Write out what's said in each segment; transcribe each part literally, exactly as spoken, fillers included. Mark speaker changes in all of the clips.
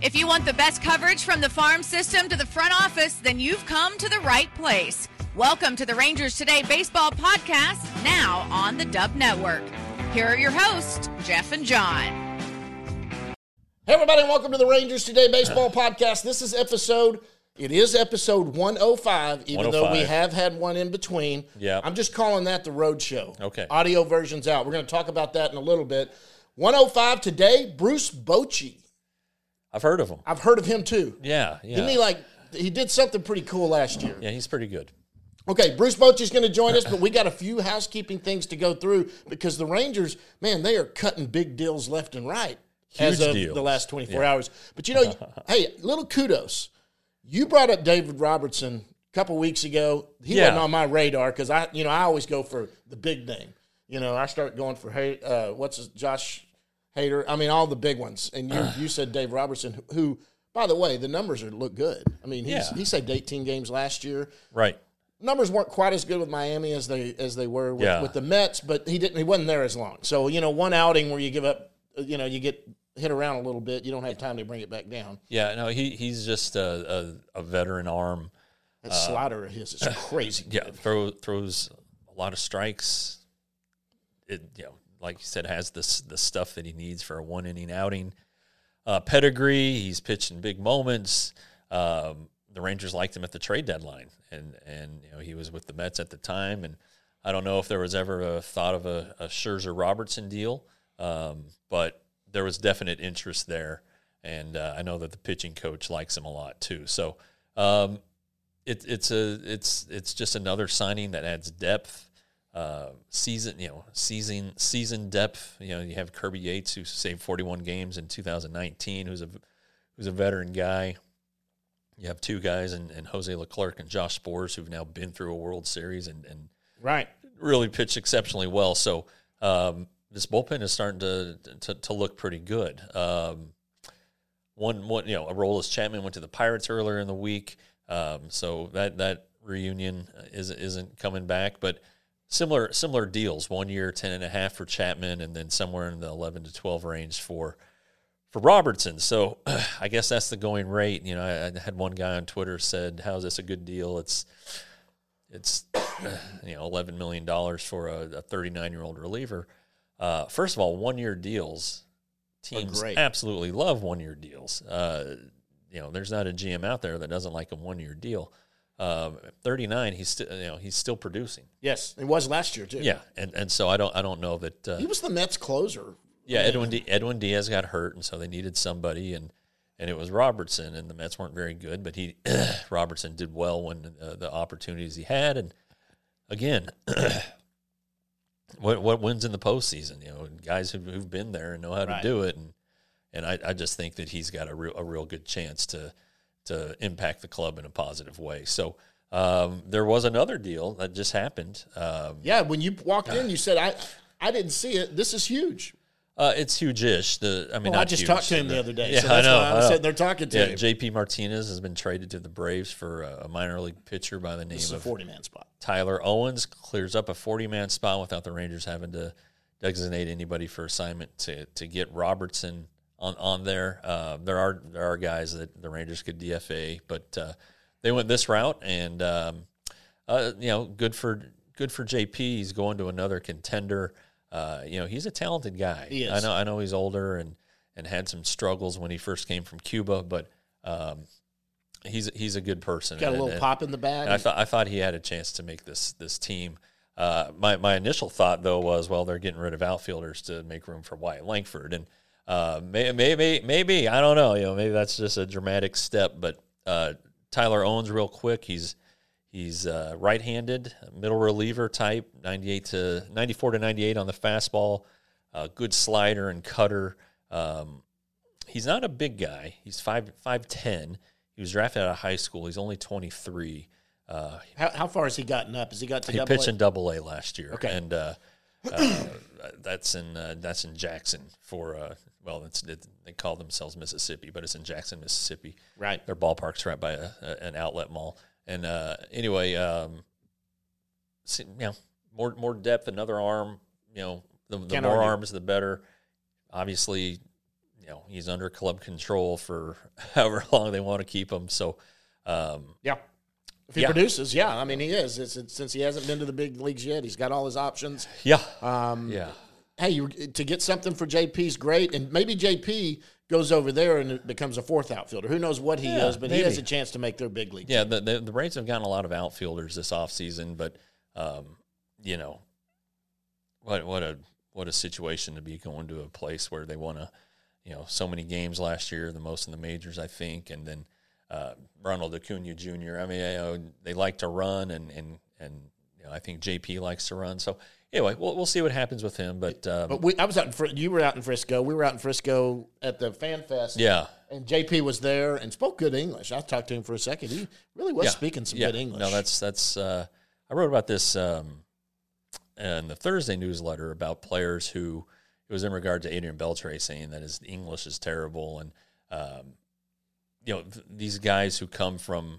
Speaker 1: If you want the best coverage from the farm system to the front office, then you've come to the right place. Welcome to the Rangers Today Baseball Podcast, now on the Dub Network. Here are your hosts, Jeff and John.
Speaker 2: Hey, everybody, and welcome to the Rangers Today Baseball Podcast. This is episode, it is episode one oh five, even though we have had one in between.
Speaker 3: Yeah.
Speaker 2: I'm just calling that the road show.
Speaker 3: Okay.
Speaker 2: Audio version's out. We're going to talk about that in a little bit. one oh five today, Bruce Bochy.
Speaker 3: I've heard of him.
Speaker 2: I've heard of him, too.
Speaker 3: Yeah, yeah.
Speaker 2: Didn't he, like, he did something pretty cool last year.
Speaker 3: Yeah, he's pretty good.
Speaker 2: Okay, Bruce Bochy's going to join us, but we got a few housekeeping things to go through because the Rangers, man, they are cutting big deals left and right.
Speaker 3: Huge
Speaker 2: as of
Speaker 3: deals.
Speaker 2: the last twenty-four
Speaker 3: Yeah.
Speaker 2: hours. But, you know, hey, little kudos. You brought up David Robertson a couple weeks ago. He
Speaker 3: Yeah.
Speaker 2: wasn't on my radar because, I, you know, I always go for the big name. You know, I start going for, hey, uh, what's his, Josh Hader. I mean, all the big ones. And you, you said Dave Robertson, who, by the way, the numbers are look good. I mean, he's,
Speaker 3: Yeah.
Speaker 2: he saved eighteen games last year.
Speaker 3: Right.
Speaker 2: Numbers weren't quite as good with Miami as they as they were with,
Speaker 3: Yeah.
Speaker 2: with the Mets, but he didn't. He wasn't there as long. So you know, one outing where you give up, you know, you get hit around a little bit. You don't have time to bring it back down.
Speaker 3: Yeah, no, he he's just a, a, a veteran arm.
Speaker 2: That slider of his is crazy.
Speaker 3: Yeah,
Speaker 2: good.
Speaker 3: throw, throws a lot of strikes. It you know, like you said, has this the stuff that he needs for a one inning outing. Uh, pedigree. He's pitched in big moments. Um, the Rangers liked him at the trade deadline, and and you know he was with the Mets at the time. And I don't know if there was ever a thought of a, a Scherzer Robertson deal, um, but there was definite interest there, and uh, I know that the pitching coach likes him a lot too. So um, it, it's a it's it's just another signing that adds depth, uh, season you know season season depth. You know you have Kirby Yates, who saved forty-one games in two thousand nineteen, who's a who's a veteran guy. You have two guys, and, and Jose Leclerc and Josh Spores, who've now been through a World Series and, and
Speaker 2: Right.
Speaker 3: really pitched exceptionally well. So um, this bullpen is starting to to, to look pretty good. Um, one, one, you know, Aroldis Chapman went to the Pirates earlier in the week, um, so that that reunion is, isn't coming back. But similar similar deals: one year, ten and a half for Chapman, and then somewhere in the eleven to twelve range for. For Robertson, so I guess that's the going rate. You know, I, I had one guy on Twitter said, "How is this a good deal?" It's, it's, you know, eleven million dollars for a thirty-nine-year-old reliever. Uh, first of all, one-year deals, teams absolutely love one-year deals. Uh, you know, there's not a G M out there that doesn't like a one-year deal. Um, thirty-nine, he's still, you know, he's still producing.
Speaker 2: Yes, it was last year too.
Speaker 3: Yeah, and and so I don't I don't know that uh,
Speaker 2: he was the Mets closer.
Speaker 3: Yeah, Edwin D- Edwin Diaz got hurt, and so they needed somebody, and, and it was Robertson, and the Mets weren't very good, but he Robertson did well when uh, the opportunities he had, and again, what what wins in the postseason? You know, guys who've, who've been there and know how
Speaker 2: Right.
Speaker 3: to do it, and and I, I just think that he's got a real a real good chance to to impact the club in a positive way. So um, there was another deal that just happened. Um,
Speaker 2: Yeah, when you walked in, you said, "I I didn't see it. This is huge."
Speaker 3: Uh, it's huge-ish. The I mean,
Speaker 2: Well,
Speaker 3: not
Speaker 2: I just
Speaker 3: huge.
Speaker 2: talked to him the other day.
Speaker 3: Yeah,
Speaker 2: so that's
Speaker 3: I know.
Speaker 2: why I was
Speaker 3: I know.
Speaker 2: sitting there talking to
Speaker 3: Yeah,
Speaker 2: him.
Speaker 3: J P Martinez has been traded to the Braves for a minor league pitcher by the name
Speaker 2: This is a
Speaker 3: of
Speaker 2: forty-man spot.
Speaker 3: Tyler Owens. Clears up a forty-man spot without the Rangers having to designate anybody for assignment to to get Robertson on on there. Uh, there are there are guys that the Rangers could D F A, but uh, they went this route, and um, uh, you know, good for good for J P. He's going to another contender. Uh, you know, he's a talented guy.
Speaker 2: He is.
Speaker 3: I know. I know he's older and, and had some struggles when he first came from Cuba, but um, he's he's a good person.
Speaker 2: Got a
Speaker 3: And-
Speaker 2: little
Speaker 3: and-
Speaker 2: pop in the bag.
Speaker 3: and I thought I thought he had a chance to make this this team. Uh, my my initial thought though was, well, they're getting rid of outfielders to make room for Wyatt Langford, and uh, may, maybe maybe I don't know. You know, maybe that's just a dramatic step. But uh, Tyler Owens, real quick, he's he's uh, right-handed, middle reliever type, ninety-eight to ninety-four to ninety-eight on the fastball, uh, good slider and cutter. Um, he's not a big guy. He's five five ten. He was drafted out of high school. He's only twenty-three. Uh,
Speaker 2: how, how far has he gotten up? Has he got to
Speaker 3: he
Speaker 2: double
Speaker 3: pitched
Speaker 2: A?
Speaker 3: in Double A last year,
Speaker 2: Okay.
Speaker 3: and uh, uh, that's in uh, that's in Jackson for uh, well, it's, it, they call themselves Mississippi, but it's in Jackson, Mississippi.
Speaker 2: Right.
Speaker 3: Their ballpark's right by a, a, an outlet mall, and uh, anyway, um, see, you know, more more depth, another arm. You know, the, the
Speaker 2: Can't
Speaker 3: more
Speaker 2: argue.
Speaker 3: arms, the better. Obviously, you you know, he's under club control for however long they want to keep him. So, um,
Speaker 2: yeah. If he
Speaker 3: yeah.
Speaker 2: produces, yeah. I mean, he is. It's, it's, since he hasn't been to the big leagues yet, he's got all his options.
Speaker 3: Yeah.
Speaker 2: Um,
Speaker 3: yeah.
Speaker 2: Hey, you, to get something for J P is great, and maybe J P goes over there and it becomes a fourth outfielder. Who knows what he
Speaker 3: Yeah,
Speaker 2: is, but
Speaker 3: maybe.
Speaker 2: he has a chance to make their big league.
Speaker 3: Yeah, the, the the Braves have gotten a lot of outfielders this offseason, but um, you know, what what a what a situation to be going to a place where they won a, you know, so many games last year, the most in the majors, I think, and then uh, Ronald Acuna Junior I mean, you know, they like to run, and and and you know, I think J P likes to run. So anyway, we'll we'll see what happens with him. But um,
Speaker 2: But we, I was out in Fr- you were out in Frisco. We were out in Frisco at the Fan Fest.
Speaker 3: yeah.
Speaker 2: And J P was there and spoke good English. I talked to him for a second. He really was
Speaker 3: Yeah.
Speaker 2: speaking some
Speaker 3: yeah.
Speaker 2: good English.
Speaker 3: No, that's that's. Uh, I wrote about this um, in the Thursday newsletter about players who it was in regard to Adrian Beltre saying that his English is terrible, and um, you know th- these guys who come from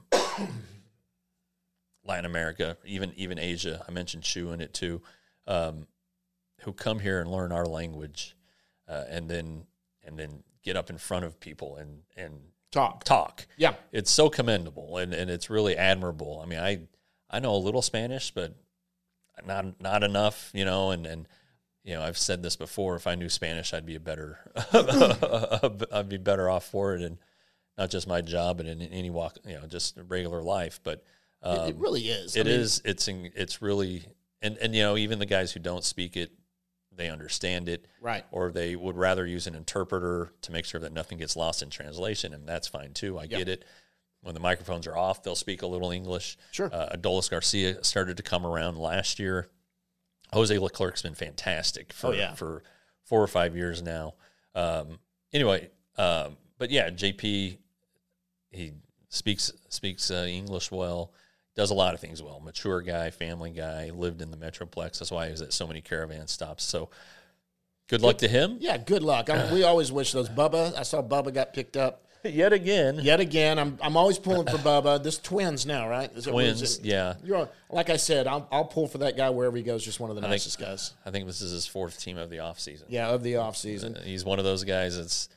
Speaker 3: Latin America, even even Asia. I mentioned Shu in it too, um, who come here and learn our language, uh, and then and then get up in front of people and and
Speaker 2: talk.
Speaker 3: talk.
Speaker 2: Yeah.
Speaker 3: It's so commendable, and, and it's really admirable. I mean, I I know a little Spanish, but not not enough, you know. And, and you know, I've said this before. If I knew Spanish, I'd be a better I'd be better off for it, and not just my job, but in any walk, you know, just regular life. But um,
Speaker 2: It, it really is.
Speaker 3: it
Speaker 2: I mean,
Speaker 3: is. It's in, it's really, and and you know, even the guys who don't speak it, they understand it,
Speaker 2: Right.
Speaker 3: or they would rather use an interpreter to make sure that nothing gets lost in translation, and that's fine too. I
Speaker 2: Yeah.
Speaker 3: get it. When the microphones are off, they'll speak a little English.
Speaker 2: Sure.
Speaker 3: Uh, Adolis Garcia started to come around last year. Jose Leclerc's been fantastic for
Speaker 2: Oh, yeah.
Speaker 3: for four or five years now. Um, anyway, um, but yeah, J P, he speaks speaks uh, English well. Does a lot of things well. Mature guy, family guy, lived in the Metroplex. That's why he was at so many caravan stops. So good luck to him.
Speaker 2: Yeah, good luck. I mean, we always wish those. Bubba, I saw Bubba got picked up
Speaker 3: Yet again.
Speaker 2: yet again. I'm I'm always pulling for Bubba. This twins now, right? Is it-
Speaker 3: Twins,
Speaker 2: is it-
Speaker 3: yeah.
Speaker 2: You're like I said, I'll I'll pull for that guy wherever he goes. Just one of the
Speaker 3: think-
Speaker 2: nicest guys.
Speaker 3: I think this is his fourth team of the offseason.
Speaker 2: Yeah, of the off season.
Speaker 3: He's one of those guys that's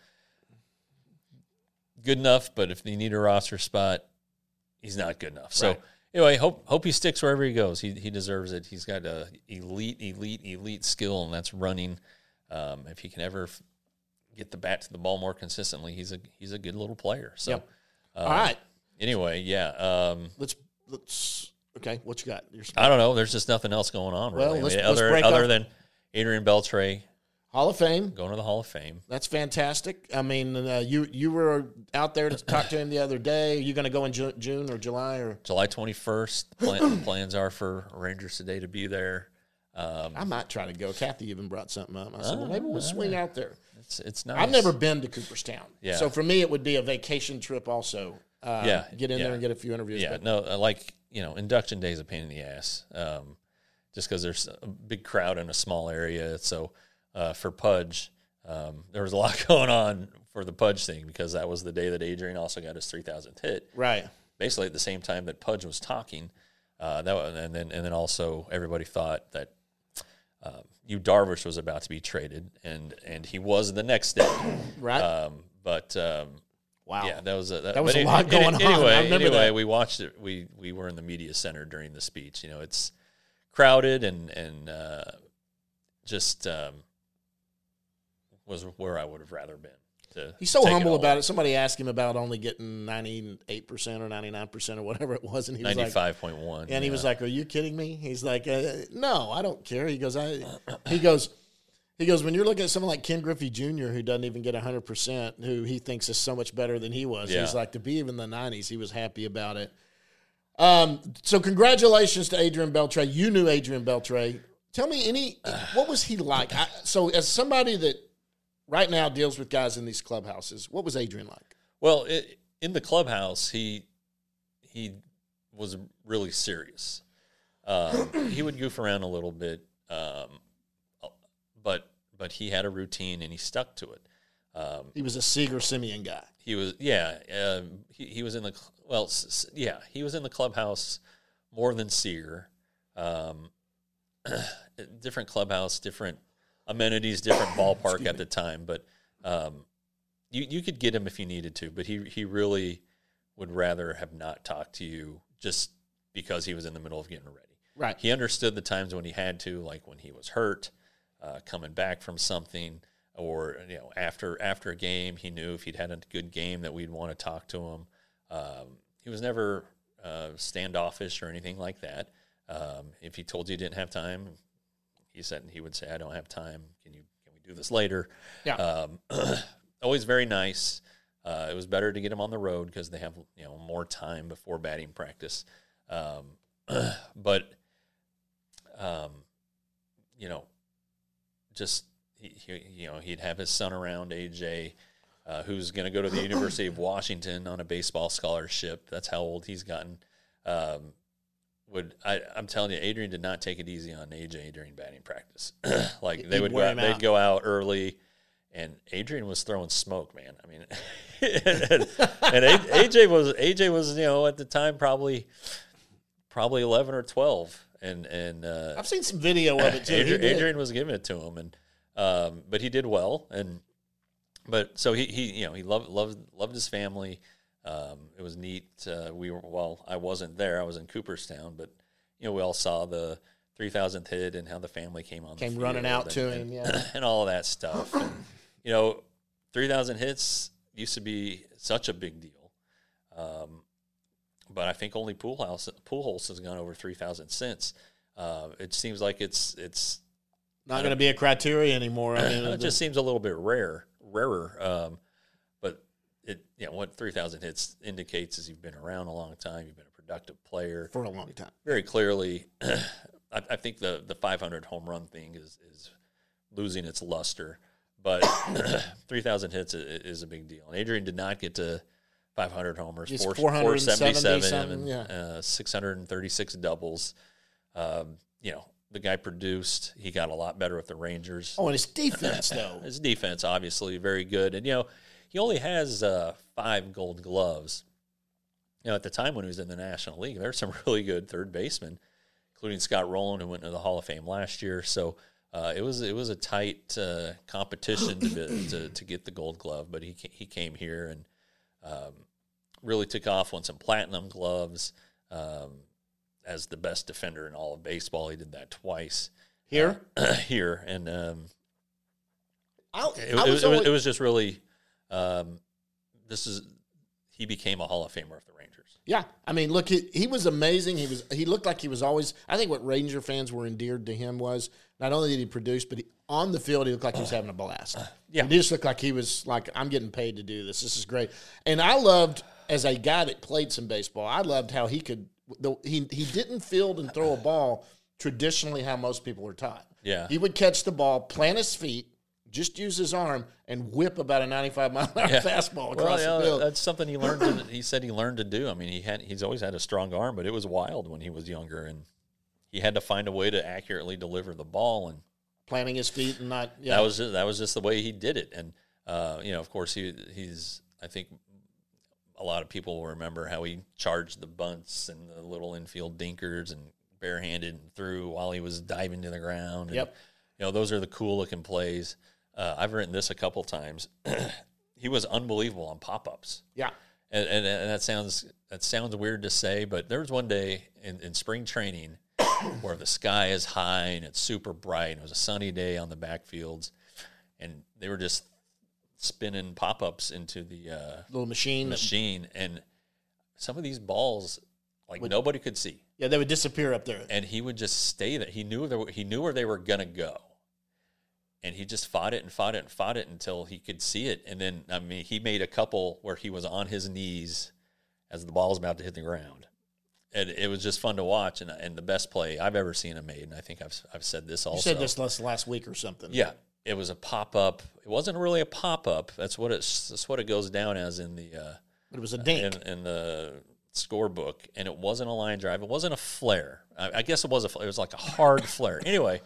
Speaker 3: good enough, but if you need a roster spot, he's not good enough. So
Speaker 2: Right.
Speaker 3: anyway, hope hope he sticks wherever he goes. He he deserves it. He's got a elite, elite, elite skill, and that's running. Um, if he can ever f- get the bat to the ball more consistently, he's a he's a good little player. So,
Speaker 2: Yep.
Speaker 3: uh,
Speaker 2: All right,
Speaker 3: Anyway, yeah. Um,
Speaker 2: let's let's. Okay, what you got? Your
Speaker 3: I don't know. There's just nothing else going on.
Speaker 2: Well,
Speaker 3: Really. I
Speaker 2: let's-
Speaker 3: mean,
Speaker 2: let's
Speaker 3: other
Speaker 2: break
Speaker 3: other
Speaker 2: off-
Speaker 3: than Adrian Beltre
Speaker 2: Hall of Fame.
Speaker 3: going to the Hall of Fame.
Speaker 2: That's fantastic. I mean, uh, you you were out there to talk to him the other day. Are you going to go in Ju- June or July or?
Speaker 3: July twenty-first. Plan, plans are for Rangers today to be there. Um,
Speaker 2: I might try to go. Kathy even brought something up. I said, well,
Speaker 3: Oh,
Speaker 2: maybe we'll swing out there.
Speaker 3: it's it's nice.
Speaker 2: I've never been to Cooperstown.
Speaker 3: Yeah.
Speaker 2: So for me, it would be a vacation trip also. Uh,
Speaker 3: Yeah,
Speaker 2: Get in
Speaker 3: yeah.
Speaker 2: there and get a few interviews.
Speaker 3: Yeah,
Speaker 2: But
Speaker 3: no, uh, like you know, induction day is a pain in the ass. Um, just because there's a big crowd in a small area. So uh, for Pudge, um, there was a lot going on for the Pudge thing because that was the day that Adrian also got his three thousandth hit.
Speaker 2: Right.
Speaker 3: Basically at the same time that Pudge was talking. Uh, that was, and then and then also everybody thought that um, Yu Darvish was about to be traded, and and he was the next day.
Speaker 2: Right.
Speaker 3: Um, but um,
Speaker 2: Wow.
Speaker 3: yeah, that was a, that,
Speaker 2: That was
Speaker 3: but
Speaker 2: a lot
Speaker 3: any-
Speaker 2: going on.
Speaker 3: Anyway,
Speaker 2: I remember
Speaker 3: anyway,
Speaker 2: that.
Speaker 3: we watched it. We we were in the media center during the speech. You know, it's crowded and and uh, just um, was where I would have rather been. To
Speaker 2: He's so
Speaker 3: take
Speaker 2: humble
Speaker 3: all
Speaker 2: about
Speaker 3: in.
Speaker 2: it. Somebody asked him about only getting ninety-eight percent or ninety-nine percent or whatever it was. And he was like,
Speaker 3: ninety-five point one.
Speaker 2: and he was like, are you kidding me? He's like, uh, no, I don't care. He goes, I, he goes, he goes, when you're looking at someone like Ken Griffey Junior, who doesn't even get one hundred percent, who he thinks is so much better than he was,
Speaker 3: Yeah.
Speaker 2: he's like, to be even in the nineties, he was happy about it. Um, so congratulations to Adrian Beltre. You knew Adrian Beltre. Tell me any, what was he like? I, so as somebody that right now deals with guys in these clubhouses, what was Adrian like?
Speaker 3: Well, it, in the clubhouse, he he was really serious. Um, he would goof around a little bit, um, but but he had a routine and he stuck to it. Um,
Speaker 2: He was a Seager Simeon guy.
Speaker 3: he was yeah. Um, he he was in the cl- well s- s- yeah. He was in the clubhouse more than Seager. Um, different clubhouse, different amenities, different ballpark at the time, but. Um, you you could get him if you needed to, but he he really would rather have not talked to you just because he was in the middle of getting ready.
Speaker 2: Right.
Speaker 3: He understood the times when he had to, like when he was hurt, uh, coming back from something, or you know after after a game, he knew if he'd had a good game that we'd want to talk to him. Um, he was never uh, standoffish or anything like that. Um, if he told you he didn't have time, he said he would say, "I don't have time. Can you can we do this later?"
Speaker 2: Yeah.
Speaker 3: Um, always very nice. Uh, it was better to get him on the road because they have you know more time before batting practice. Um, but um, you know, just he, he you know he'd have his son around, A J, uh, who's going to go to the University of Washington on a baseball scholarship. That's how old he's gotten. Um, would I, I'm telling you, Adrian did not take it easy on A J during batting practice. Like they
Speaker 2: He'd
Speaker 3: would go
Speaker 2: wear
Speaker 3: out,
Speaker 2: him
Speaker 3: they'd
Speaker 2: out.
Speaker 3: go out early, and Adrian was throwing smoke, man. I mean, and, and A J was A J was you know at the time probably probably eleven or twelve, and and uh,
Speaker 2: I've seen some video of it too. He
Speaker 3: Adrian,
Speaker 2: did.
Speaker 3: Adrian was giving it to him, and um, but he did well, and but so he, he you know he loved loved loved his family. Um, it was neat. Uh, we were well. I wasn't there. I was in Cooperstown, but you know we all saw the three thousandth hit and how the family came on.
Speaker 2: Came
Speaker 3: the
Speaker 2: running
Speaker 3: field
Speaker 2: out
Speaker 3: and,
Speaker 2: to
Speaker 3: and,
Speaker 2: him, yeah.
Speaker 3: and all of that stuff. And, you know, three thousand hits used to be such a big deal, um, but I think only Poolhouse Poolhouse has gone over three thousand since. Uh, it seems like it's it's
Speaker 2: Not going to be a criteria anymore. I mean,
Speaker 3: it just seems a little bit rare, rarer. Um, but it, you know, what three thousand hits indicates is you've been around a long time. You've been a productive player
Speaker 2: for a long time.
Speaker 3: Very clearly, I, I think the the five hundred home run thing is is losing its luster. But three thousand hits is, is a big deal. And Adrian did not get to five hundred homers,
Speaker 2: It's
Speaker 3: four,
Speaker 2: four seventy
Speaker 3: four seventy-seven,
Speaker 2: something,
Speaker 3: and
Speaker 2: yeah.
Speaker 3: uh, six hundred thirty-six doubles. Um, you know, the guy produced. He got a lot better with the Rangers.
Speaker 2: Oh, and his defense, though.
Speaker 3: His defense, obviously, very good. And, you know, he only has uh, five gold gloves. You know, at the time when he was in the National League, there were some really good third basemen, including Scott Rowland, who went into the Hall of Fame last year. So uh, it was it was a tight uh, competition to, be, to to get the gold glove. But he he came here and um, really took off, won some platinum gloves um, as the best defender in all of baseball. He did that twice.
Speaker 2: Here?
Speaker 3: Uh, here. And um,
Speaker 2: I,
Speaker 3: it,
Speaker 2: I
Speaker 3: it,
Speaker 2: was
Speaker 3: it,
Speaker 2: always,
Speaker 3: was, it was just really um, this is he became a Hall of Famer of the Rangers.
Speaker 2: yeah. I mean, look, he, he was amazing. He was he looked like he was always. I think what Ranger fans were endeared to him was not only did he produce, but he, on the field he looked like he was having a blast.
Speaker 3: Yeah.
Speaker 2: he just looked like he was like, I'm getting paid to do this. This is great. And I loved, as a guy that played some baseball, I loved how he could. The, he he didn't field and throw a ball traditionally how most people are taught.
Speaker 3: Yeah.
Speaker 2: He would catch the ball, plant his feet, just use his arm, and whip about a ninety-five mile an hour
Speaker 3: Yeah.
Speaker 2: fastball
Speaker 3: Well,
Speaker 2: across
Speaker 3: yeah,
Speaker 2: the field.
Speaker 3: that's something he learned. To, he said he learned to do. I mean, he had he's always had a strong arm, but it was wild when he was younger, and he had to find a way to accurately deliver the ball, and
Speaker 2: Planting his feet and not. Yeah.
Speaker 3: that was just, that was just the way he did it. And uh, you know, of course, he he's I think a lot of people will remember how he charged the bunts and the little infield dinkers and barehanded and threw while he was diving to the ground. And,
Speaker 2: Yep.
Speaker 3: you know, those are the cool looking plays. Uh, I've written this a couple times. He was unbelievable on pop-ups.
Speaker 2: Yeah.
Speaker 3: And, and, and that sounds that sounds weird to say, but there was one day in, in spring training where the sky is high and it's super bright. And it was a sunny day on the backfields, and they were just spinning pop-ups into the uh,
Speaker 2: Little machine.
Speaker 3: machine, and some of these balls, like nobody could see,
Speaker 2: Yeah, they would disappear up there.
Speaker 3: and he would just stay there. He knew there, he knew where they were gonna go, and he just fought it and fought it and fought it until he could see it. And then, I mean, he made a couple where he was on his knees as the ball was about to hit the ground, and it was just fun to watch. And and the best play I've ever seen him made, and I think I've I've said this also.
Speaker 2: You said this last, last week or something.
Speaker 3: Yeah, it was a pop up. It wasn't really a pop up. That's what it's. That's what it goes down as in the. Uh,
Speaker 2: But it was a dink.
Speaker 3: in, in the scorebook, and it wasn't a line drive. It wasn't a flare. I, I guess it was a. It was like a hard flare. Anyway,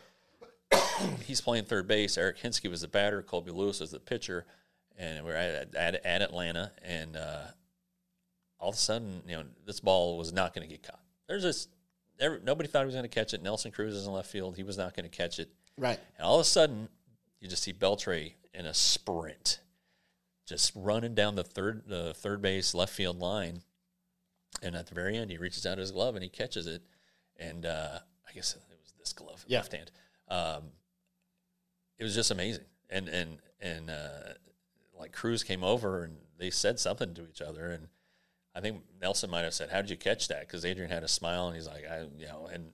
Speaker 3: he's playing third base. Eric Hinsky was the batter. Colby Lewis was the pitcher, and we we're at, at, at Atlanta. And uh, all of a sudden, you know, this ball was not going to get caught. There's this. Every, nobody thought he was going to catch it. Nelson Cruz is in left field. He was not going to catch it.
Speaker 2: Right.
Speaker 3: And all of a sudden, you just see Beltre in a sprint. just running down the third the third base left field line, and at the very end, he reaches out his glove and he catches it, and uh, I guess it was this glove,
Speaker 2: yeah.
Speaker 3: left hand. Um, it was just amazing, and and and uh, like Cruz came over and they said something to each other, and I think Nelson might have said, "How did you catch that?" Because Adrian had a smile, and he's like, "I, you know," and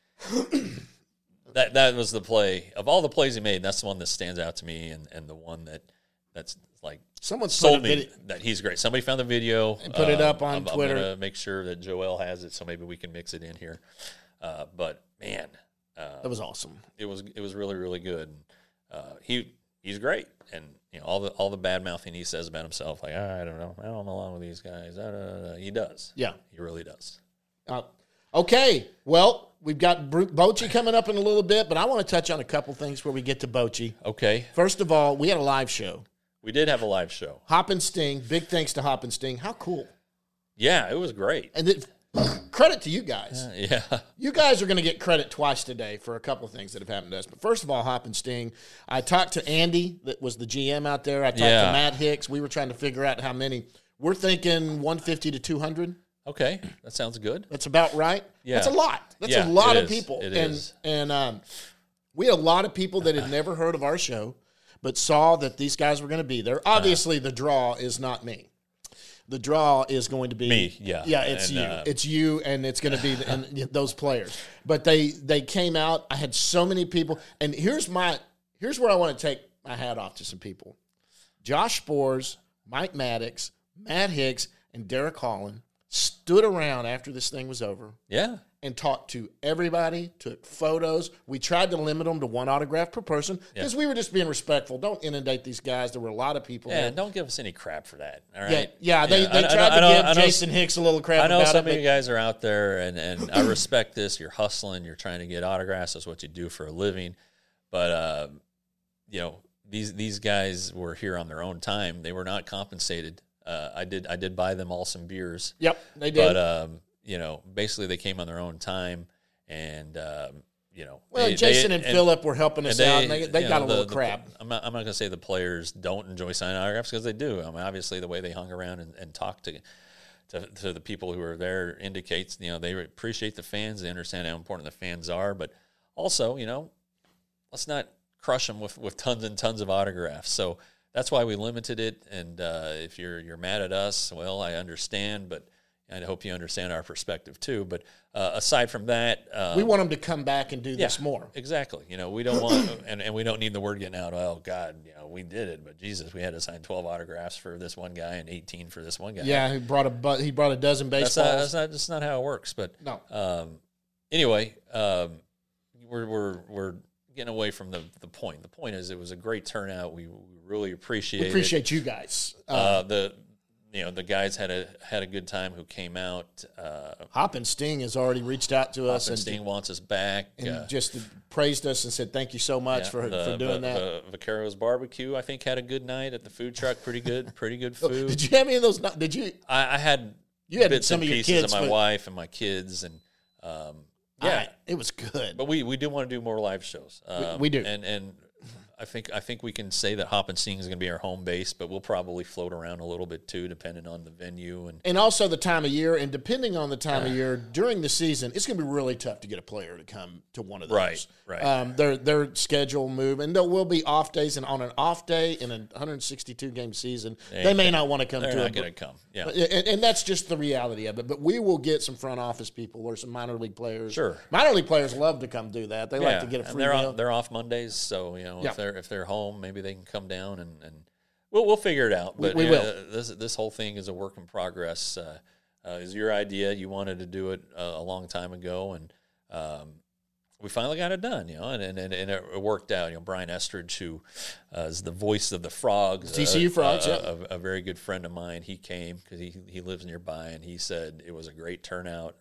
Speaker 3: and that that was the play of all the plays he made. That's the one that stands out to me, and, and the one that that's like
Speaker 2: someone
Speaker 3: sold me that he's great. Somebody found the video
Speaker 2: and put it up on
Speaker 3: I'm,
Speaker 2: Twitter.
Speaker 3: I'm gonna make sure that Joel has it, so maybe we can mix it in here. Uh, but man, uh,
Speaker 2: that was awesome.
Speaker 3: It was it was really really good. Uh, he he's great, and you know all the all the bad mouthing he says about himself, like I don't know, I don't belong with these guys. Da, da, da. He does,
Speaker 2: yeah,
Speaker 3: he really does.
Speaker 2: Uh, okay, well, we've got Bochy coming up in a little bit, but I want to touch on a couple things before we get to Bochy.
Speaker 3: Okay.
Speaker 2: First of all, we had a live show.
Speaker 3: We did have a live show.
Speaker 2: Hop and Sting. Big thanks to Hop and Sting. How cool.
Speaker 3: Yeah, it was great.
Speaker 2: And it, credit to you guys.
Speaker 3: Uh, yeah.
Speaker 2: You guys are going to get credit twice today for a couple of things that have happened to us. But first of all, Hop and Sting. I talked to Andy, that was the G M out there. I talked
Speaker 3: Yeah.
Speaker 2: to Matt Hicks. We were trying to figure out how many. We're thinking one fifty to two hundred.
Speaker 3: Okay, that sounds good.
Speaker 2: That's about right.
Speaker 3: Yeah.
Speaker 2: That's a lot. That's
Speaker 3: Yeah,
Speaker 2: a lot
Speaker 3: it
Speaker 2: of
Speaker 3: is.
Speaker 2: people.
Speaker 3: It
Speaker 2: and
Speaker 3: is.
Speaker 2: and um, we had a lot of people that had never heard of our show, but saw that these guys were going to be there. Obviously, uh, the draw is not me. The draw is going to be
Speaker 3: me. Yeah,
Speaker 2: yeah. It's
Speaker 3: and,
Speaker 2: you.
Speaker 3: Uh,
Speaker 2: it's you, and it's going to be the, and those players. But they they came out. I had so many people, and here's my here's where I want to take my hat off to some people: Josh Spores, Mike Maddox, Matt Hicks, and Derek Holland stood around after this thing was over.
Speaker 3: Yeah.
Speaker 2: And talked to everybody, took photos. We tried to limit them to one autograph per person because yeah. we were just being respectful. Don't inundate these guys. There were a lot of people
Speaker 3: Yeah,
Speaker 2: there.
Speaker 3: don't give us any crap for that, all right?
Speaker 2: Yeah, yeah they,
Speaker 3: yeah.
Speaker 2: they
Speaker 3: I,
Speaker 2: tried
Speaker 3: I,
Speaker 2: to
Speaker 3: I
Speaker 2: give Jason Hicks a little crap
Speaker 3: I know
Speaker 2: about
Speaker 3: some
Speaker 2: it.
Speaker 3: of you guys are out there, and, and I respect this. You're hustling. You're trying to get autographs. That's what you do for a living. But, uh, you know, these these guys were here on their own time. They were not compensated. Uh, I did I did buy them all some beers.
Speaker 2: Yep, they did.
Speaker 3: But, um, you know, basically they came on their own time. And, um, you know.
Speaker 2: Well,
Speaker 3: they,
Speaker 2: Jason
Speaker 3: they,
Speaker 2: and, and Phillip were helping us
Speaker 3: they,
Speaker 2: out, and they, they got
Speaker 3: know,
Speaker 2: a little
Speaker 3: the,
Speaker 2: crap.
Speaker 3: The, I'm not, I'm not going to say the players don't enjoy signing autographs because they do. I mean, obviously, the way they hung around and, and talked to, to to the people who were there indicates, you know, they appreciate the fans. They understand how important the fans are. But also, you know, let's not crush them with, with tons and tons of autographs. So that's why we limited it. And uh, if you're you're mad at us, well, I understand, but I hope you understand our perspective too. But uh, aside from that, um,
Speaker 2: we want them to come back and do this
Speaker 3: yeah,
Speaker 2: more.
Speaker 3: Exactly. You know, we don't want, and, and we don't need the word getting out. Oh God, you know, we did it, but Jesus, we had to sign twelve autographs for this one guy and eighteen for this one guy.
Speaker 2: Yeah, he brought a bu- he brought a dozen baseballs.
Speaker 3: That's not that's not, that's not how it works. But
Speaker 2: no.
Speaker 3: Um, anyway, um, we're we're we're getting away from the the point. The point is, it was a great turnout. We, we really appreciate.
Speaker 2: We appreciate
Speaker 3: it.
Speaker 2: you guys.
Speaker 3: Uh, uh, the. You know, the guys had a had a good time who came out. Uh,
Speaker 2: Hop and Sting has already reached out to
Speaker 3: Hop
Speaker 2: us.
Speaker 3: and Sting wants us back.
Speaker 2: And
Speaker 3: uh,
Speaker 2: just praised us and said thank you so much
Speaker 3: yeah,
Speaker 2: for,
Speaker 3: the,
Speaker 2: for doing
Speaker 3: the,
Speaker 2: that.
Speaker 3: The Vaqueros Barbecue, I think, had a good night at the food truck. Pretty good, pretty good food.
Speaker 2: Did you have any of those? Did you?
Speaker 3: I, I had
Speaker 2: you had
Speaker 3: bits
Speaker 2: some
Speaker 3: and
Speaker 2: of your
Speaker 3: pieces
Speaker 2: kids,
Speaker 3: of my
Speaker 2: but,
Speaker 3: wife and my kids, and um, yeah,
Speaker 2: I, it was good.
Speaker 3: But we, we do want to do more live shows. Um,
Speaker 2: we, we do,
Speaker 3: and and I think I think we can say that Hop and Sting is going to be our home base, but we'll probably float around a little bit too, depending on the venue and
Speaker 2: and also the time of year. And depending on the time of year during the season, it's going to be really tough to get a player to come to one of those.
Speaker 3: Right, right.
Speaker 2: Um, their their schedule move, and there will be off days. And on an off day in a one hundred sixty-two game season, they, they may not want to come.
Speaker 3: They're
Speaker 2: to
Speaker 3: not
Speaker 2: it.
Speaker 3: going to come. Yeah,
Speaker 2: and, and that's just the reality of it. But we will get some front office people or some minor league players.
Speaker 3: Sure,
Speaker 2: minor league players love to come do that. They
Speaker 3: yeah.
Speaker 2: like to get a free
Speaker 3: and they're
Speaker 2: meal.
Speaker 3: Off, they're off Mondays, so you know
Speaker 2: yeah.
Speaker 3: if they're if they're home, maybe they can come down and, and we'll we'll figure it out. But
Speaker 2: we, we
Speaker 3: uh,
Speaker 2: will.
Speaker 3: This this whole thing is a work in progress. Uh, uh, is your idea? You wanted to do it uh, a long time ago, and um, we finally got it done. You know, and and, and it, it worked out. You know, Brian Estridge, who uh, is the voice of the Frogs,
Speaker 2: T C U
Speaker 3: uh,
Speaker 2: Frogs,
Speaker 3: uh,
Speaker 2: yeah.
Speaker 3: a, a very good friend of mine. He came because he he lives nearby, and he said it was a great turnout.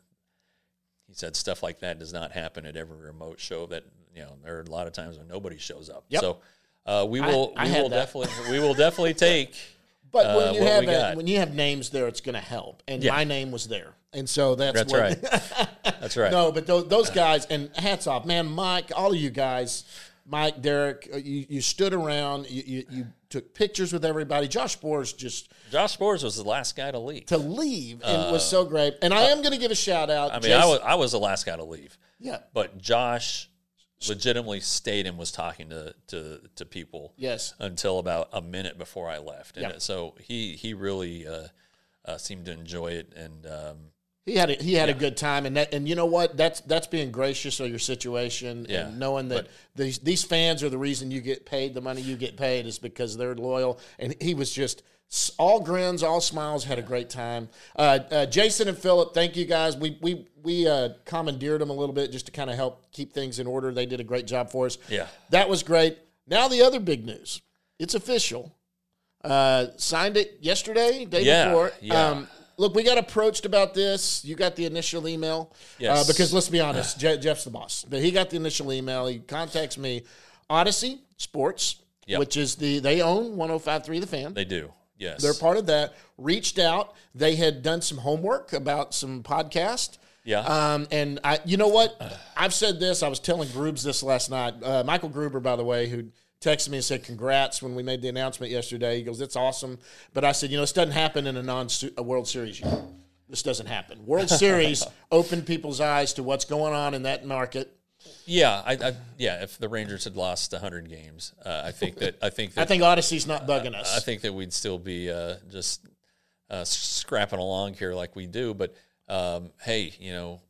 Speaker 3: He said stuff like that does not happen at every remote show. That you know, there are a lot of times when nobody shows up.
Speaker 2: Yep.
Speaker 3: So uh, we will
Speaker 2: I, I
Speaker 3: we will
Speaker 2: that.
Speaker 3: definitely we will definitely take.
Speaker 2: But
Speaker 3: uh,
Speaker 2: when you
Speaker 3: what
Speaker 2: have
Speaker 3: we
Speaker 2: a,
Speaker 3: got.
Speaker 2: when you have names there, it's going to help. And
Speaker 3: Yeah.
Speaker 2: my name was there, and so that's
Speaker 3: That's
Speaker 2: what,
Speaker 3: right. That's right.
Speaker 2: No, but those, those guys, and hats off, man, Mike, all of you guys. Mike, Derek, uh, you, you stood around, you, you, you took pictures with everybody. Josh Spores just
Speaker 3: Josh Spores was the last guy to leave.
Speaker 2: to leave and uh, was so great. And I am going to give a shout out.
Speaker 3: I mean,
Speaker 2: Jason,
Speaker 3: I was I was the last guy to leave.
Speaker 2: Yeah,
Speaker 3: but Josh legitimately stayed and was talking to to, to people.
Speaker 2: Yes,
Speaker 3: until about a minute before I left, and
Speaker 2: yeah.
Speaker 3: so he he really uh, uh, seemed to enjoy it and. Um,
Speaker 2: He had a, he had
Speaker 3: yeah.
Speaker 2: a good time, and that, and you know what? That's that's being gracious of your situation,
Speaker 3: yeah.
Speaker 2: and knowing that
Speaker 3: but,
Speaker 2: these these fans are the reason you get paid. The money you get paid is because they're loyal. And he was just all grins, all smiles. Had a great time. Uh, uh, Jason and Philip, thank you guys. We we we uh, commandeered them a little bit just to kind of help keep things in order. They did a great job for us.
Speaker 3: Yeah,
Speaker 2: that was great. Now the other big news. It's official. Uh, signed it yesterday, day
Speaker 3: yeah,
Speaker 2: before.
Speaker 3: Yeah.
Speaker 2: Um, Look, we got approached about this. You got the initial email.
Speaker 3: Yes.
Speaker 2: Uh, because let's be honest, Je- Jeff's the boss. But he got the initial email. He contacts me. Odyssey Sports,
Speaker 3: yep.
Speaker 2: which is the, they own one oh five point three The Fan.
Speaker 3: They do, yes.
Speaker 2: They're part of that. Reached out. They had done some homework about some podcast.
Speaker 3: Yeah.
Speaker 2: Um, and I, you know what? I've said this. I was telling Grubes this last night. Uh, Michael Gruber, by the way, who texted me and said congrats when we made the announcement yesterday. He goes, it's awesome. But I said, you know, this doesn't happen in a non a World Series year. This doesn't happen. World Series opened people's eyes to what's going on in that market.
Speaker 3: Yeah, I, I yeah. If the Rangers had lost one hundred games, uh, I think that I think that
Speaker 2: I think Odyssey's not bugging us.
Speaker 3: I think that we'd still be uh, just uh, scrapping along here like we do. But um, hey, you know,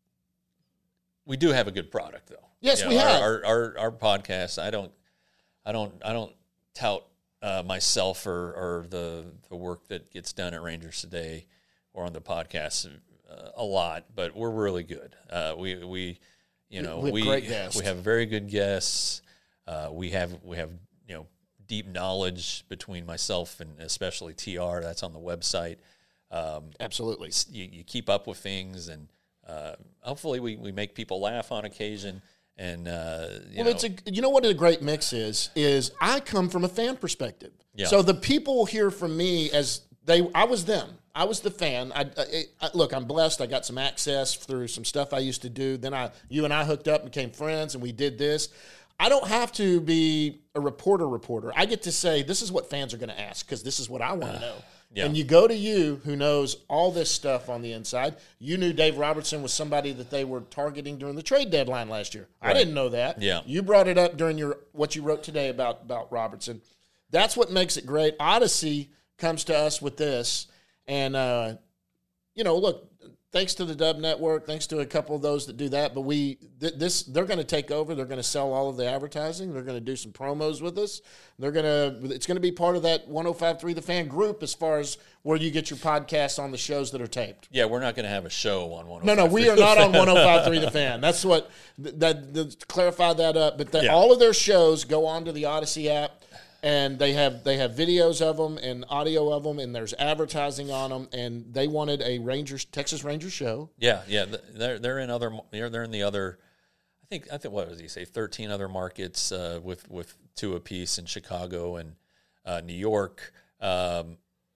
Speaker 3: we do have a good product, though.
Speaker 2: Yes,
Speaker 3: you know,
Speaker 2: we
Speaker 3: our,
Speaker 2: have
Speaker 3: our, our our podcast. I don't. I don't I don't tout uh, myself or, or the the work that gets done at Rangers Today or on the podcast uh, a lot, but we're really good. Uh, we we you know
Speaker 2: we have
Speaker 3: we
Speaker 2: great guests.
Speaker 3: we have very good guests. Uh, we have we have you know deep knowledge between myself and especially T R. That's on the website. Um,
Speaker 2: Absolutely,
Speaker 3: you, you keep up with things, and uh, hopefully we, we make people laugh on occasion. And uh, you
Speaker 2: well,
Speaker 3: know,
Speaker 2: it's a you know what a great mix is is I come from a fan perspective.
Speaker 3: Yeah.
Speaker 2: So the people hear from me as they I was them. I was the fan. I, I, I look. I'm blessed. I got some access through some stuff I used to do. Then I you and I hooked up, became friends, and we did this. I don't have to be a reporter. Reporter. I get to say this is what fans are going to ask because this is what I want to know.
Speaker 3: Yeah.
Speaker 2: And you go to you, who knows all this stuff on the inside. You knew Dave Robertson was somebody that they were targeting during the trade deadline last year.
Speaker 3: Right.
Speaker 2: I didn't know that.
Speaker 3: Yeah.
Speaker 2: You brought it up during your what you wrote today about, about Robertson. That's what makes it great. Odyssey comes to us with this. And, uh, you know, look, thanks to the Dub Network, thanks to a couple of those that do that. But we th- this they're going to take over. They're going to sell all of the advertising. They're going to do some promos with us. They're going to it's going to be part of that one oh five point three The Fan group as far as where you get your podcasts on the shows that are taped.
Speaker 3: Yeah, we're not going to have a show on one oh five.
Speaker 2: No, no, we are not on one oh five point three The Fan. That's what that, that to clarify that up. But the,
Speaker 3: Yeah.
Speaker 2: all of their shows go onto the Odyssey app. And they have they have videos of them and audio of them, and there's advertising on them. And they wanted a Rangers Texas Rangers show.
Speaker 3: Yeah, yeah, they're they're in other they're they're in the other. I think I think what was he say? Thirteen other markets uh, with with two apiece in Chicago and uh, New York. Um,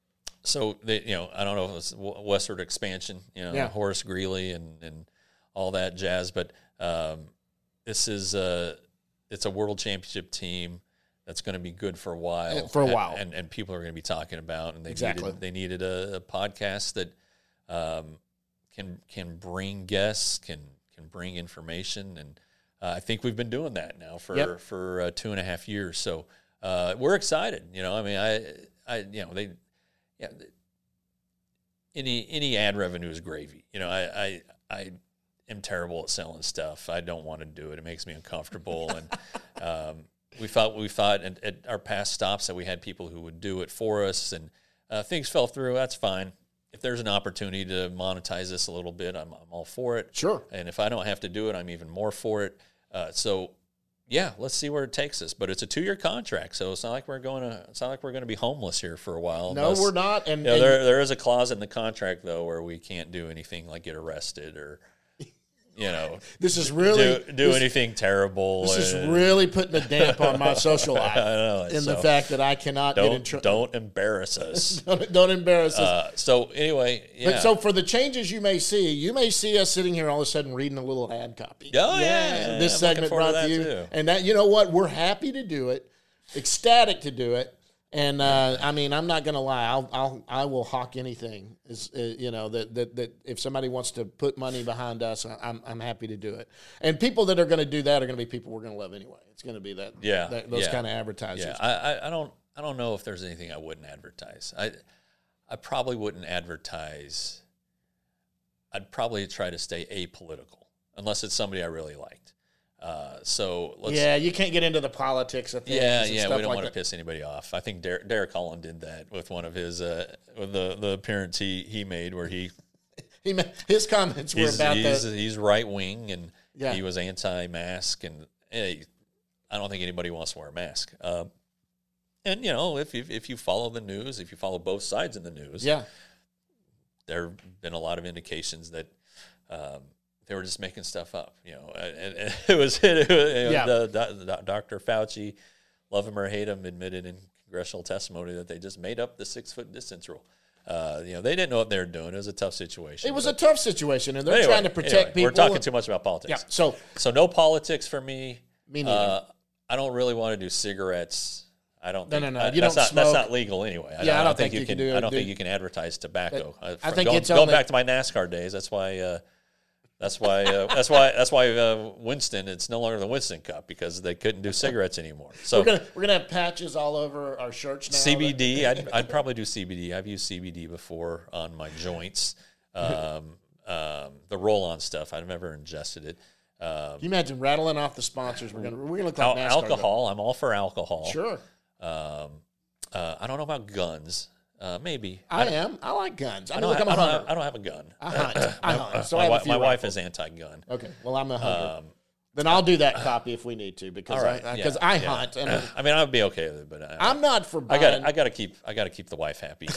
Speaker 3: so they you know I don't know if it's westward expansion. You know
Speaker 2: Yeah.
Speaker 3: Horace Greeley and and all that jazz, but um, this is a it's a world championship team. That's going to be good for a while.
Speaker 2: For a while.
Speaker 3: And, and, and people are going to be talking about, and they
Speaker 2: Exactly.
Speaker 3: needed, they needed a, a podcast that um, can can bring guests, can can bring information, and uh, I think we've been doing that now for
Speaker 2: Yep.
Speaker 3: for uh, two and a half years. So uh, we're excited. You know, I mean, I I you know they yeah. Any any ad revenue is gravy. You know, I I, I am terrible at selling stuff. I don't want to do it. It makes me uncomfortable, and um, we thought we thought at, at our past stops that we had people who would do it for us, and uh, things fell through. That's fine. If there's an opportunity to monetize this a little bit, I'm I'm all for it.
Speaker 2: Sure.
Speaker 3: And if I don't have to do it, I'm even more for it. Uh, so, yeah, let's see where it takes us. But it's a two-year contract, so it's not like we're going to. It's not like we're going to be homeless here for a while.
Speaker 2: No,
Speaker 3: unless,
Speaker 2: we're not. And,
Speaker 3: you know,
Speaker 2: and
Speaker 3: there there is a clause in the contract though where we can't do anything like get arrested or you know,
Speaker 2: this is really
Speaker 3: do, do
Speaker 2: this,
Speaker 3: anything terrible.
Speaker 2: This
Speaker 3: and,
Speaker 2: is really putting a damp on my social life.
Speaker 3: I know,
Speaker 2: in
Speaker 3: so
Speaker 2: the fact that I cannot
Speaker 3: don't,
Speaker 2: get in trouble.
Speaker 3: Don't embarrass us.
Speaker 2: don't, don't embarrass us.
Speaker 3: Uh, so anyway, yeah.
Speaker 2: But so for the changes you may see, you may see us sitting here all of a sudden reading a little ad copy.
Speaker 3: Oh yeah, yeah
Speaker 2: this
Speaker 3: I'm
Speaker 2: segment brought to, to you,
Speaker 3: too.
Speaker 2: and that you know what, we're happy to do it, ecstatic to do it. And uh, I mean, I'm not going to lie. I'll, I'll, I will hawk anything. Is uh, you know that, that that if somebody wants to put money behind us, I'm I'm happy to do it. And people that are going to do that are going to be people we're going to love anyway. It's going to be that
Speaker 3: yeah
Speaker 2: that, those
Speaker 3: yeah.
Speaker 2: kind of advertisers.
Speaker 3: Yeah, I, I I don't I don't know if there's anything I wouldn't advertise. I I probably wouldn't advertise. I'd probably try to stay apolitical unless it's somebody I really liked. Uh, so let's,
Speaker 2: yeah, you can't get into the politics of things.
Speaker 3: Yeah,
Speaker 2: and
Speaker 3: yeah,
Speaker 2: stuff
Speaker 3: we don't
Speaker 2: like
Speaker 3: want to
Speaker 2: that.
Speaker 3: piss anybody off. I think Derek, Derek Holland did that with one of his uh, with the the appearance he, he made where he
Speaker 2: he his comments were
Speaker 3: he's,
Speaker 2: about
Speaker 3: he's,
Speaker 2: that.
Speaker 3: He's right wing and
Speaker 2: Yeah.
Speaker 3: he was anti-mask and hey, I don't think anybody wants to wear a mask. Um, and you know, if you, if you follow the news, if you follow both sides in the news,
Speaker 2: Yeah,
Speaker 3: there have been a lot of indications that. Um, They were just making stuff up, you know. And, and it was, it was
Speaker 2: Yeah.
Speaker 3: the, the, the, Doctor Fauci, love him or hate him, admitted in congressional testimony that they just made up the six foot distance rule. Uh, you know, they didn't know what they were doing. It was a tough situation.
Speaker 2: it was
Speaker 3: but,
Speaker 2: a tough situation, and they're
Speaker 3: anyway,
Speaker 2: trying to protect
Speaker 3: anyway,
Speaker 2: people.
Speaker 3: We're talking too much about politics.
Speaker 2: Yeah, so
Speaker 3: So no politics for me.
Speaker 2: Me neither.
Speaker 3: Uh, I don't really want to do cigarettes. I don't.
Speaker 2: No,
Speaker 3: think,
Speaker 2: no, no.
Speaker 3: I,
Speaker 2: You
Speaker 3: that's
Speaker 2: don't
Speaker 3: not
Speaker 2: smoke.
Speaker 3: that's not legal anyway. I,
Speaker 2: Yeah,
Speaker 3: don't,
Speaker 2: I don't
Speaker 3: think,
Speaker 2: think
Speaker 3: you
Speaker 2: you
Speaker 3: can.
Speaker 2: can do-
Speaker 3: I don't
Speaker 2: do-
Speaker 3: think you can advertise tobacco.
Speaker 2: I
Speaker 3: Uh,
Speaker 2: think
Speaker 3: going,
Speaker 2: it's
Speaker 3: going
Speaker 2: only-
Speaker 3: back to my NASCAR days. That's why. Uh, That's why. Uh, that's why. That's why uh, Winston. It's no longer the Winston Cup because they couldn't do cigarettes anymore. So
Speaker 2: we're gonna we're gonna have patches all over our shirts now.
Speaker 3: C B D. I'd, I'd probably do C B D. I've used C B D before on my joints. Um, um, the roll-on stuff. I've never ingested it. Um,
Speaker 2: Can you imagine rattling off the sponsors? We're gonna we're gonna look
Speaker 3: al-
Speaker 2: like NASCAR.
Speaker 3: alcohol. I'm all for alcohol.
Speaker 2: Sure,
Speaker 3: Um, uh, I don't know about guns. Uh, maybe.
Speaker 2: I,
Speaker 3: don't-
Speaker 2: am. I like guns. I,
Speaker 3: I
Speaker 2: mean,
Speaker 3: don't,
Speaker 2: look, I'm
Speaker 3: I,
Speaker 2: a
Speaker 3: don't
Speaker 2: hunter.
Speaker 3: have, I don't have a gun.
Speaker 2: I hunt. I hunt. So I
Speaker 3: my
Speaker 2: have a
Speaker 3: wi-
Speaker 2: few
Speaker 3: my wife
Speaker 2: rifles.
Speaker 3: is anti-gun.
Speaker 2: Okay, well I'm a hunter.
Speaker 3: Um,
Speaker 2: then I'll do that copy if we need to because
Speaker 3: all right,
Speaker 2: I because
Speaker 3: yeah,
Speaker 2: I
Speaker 3: yeah.
Speaker 2: hunt and
Speaker 3: I mean, I'd be okay with it, but I,
Speaker 2: I'm not for
Speaker 3: I
Speaker 2: buying.
Speaker 3: got I got to keep I got to keep the wife happy.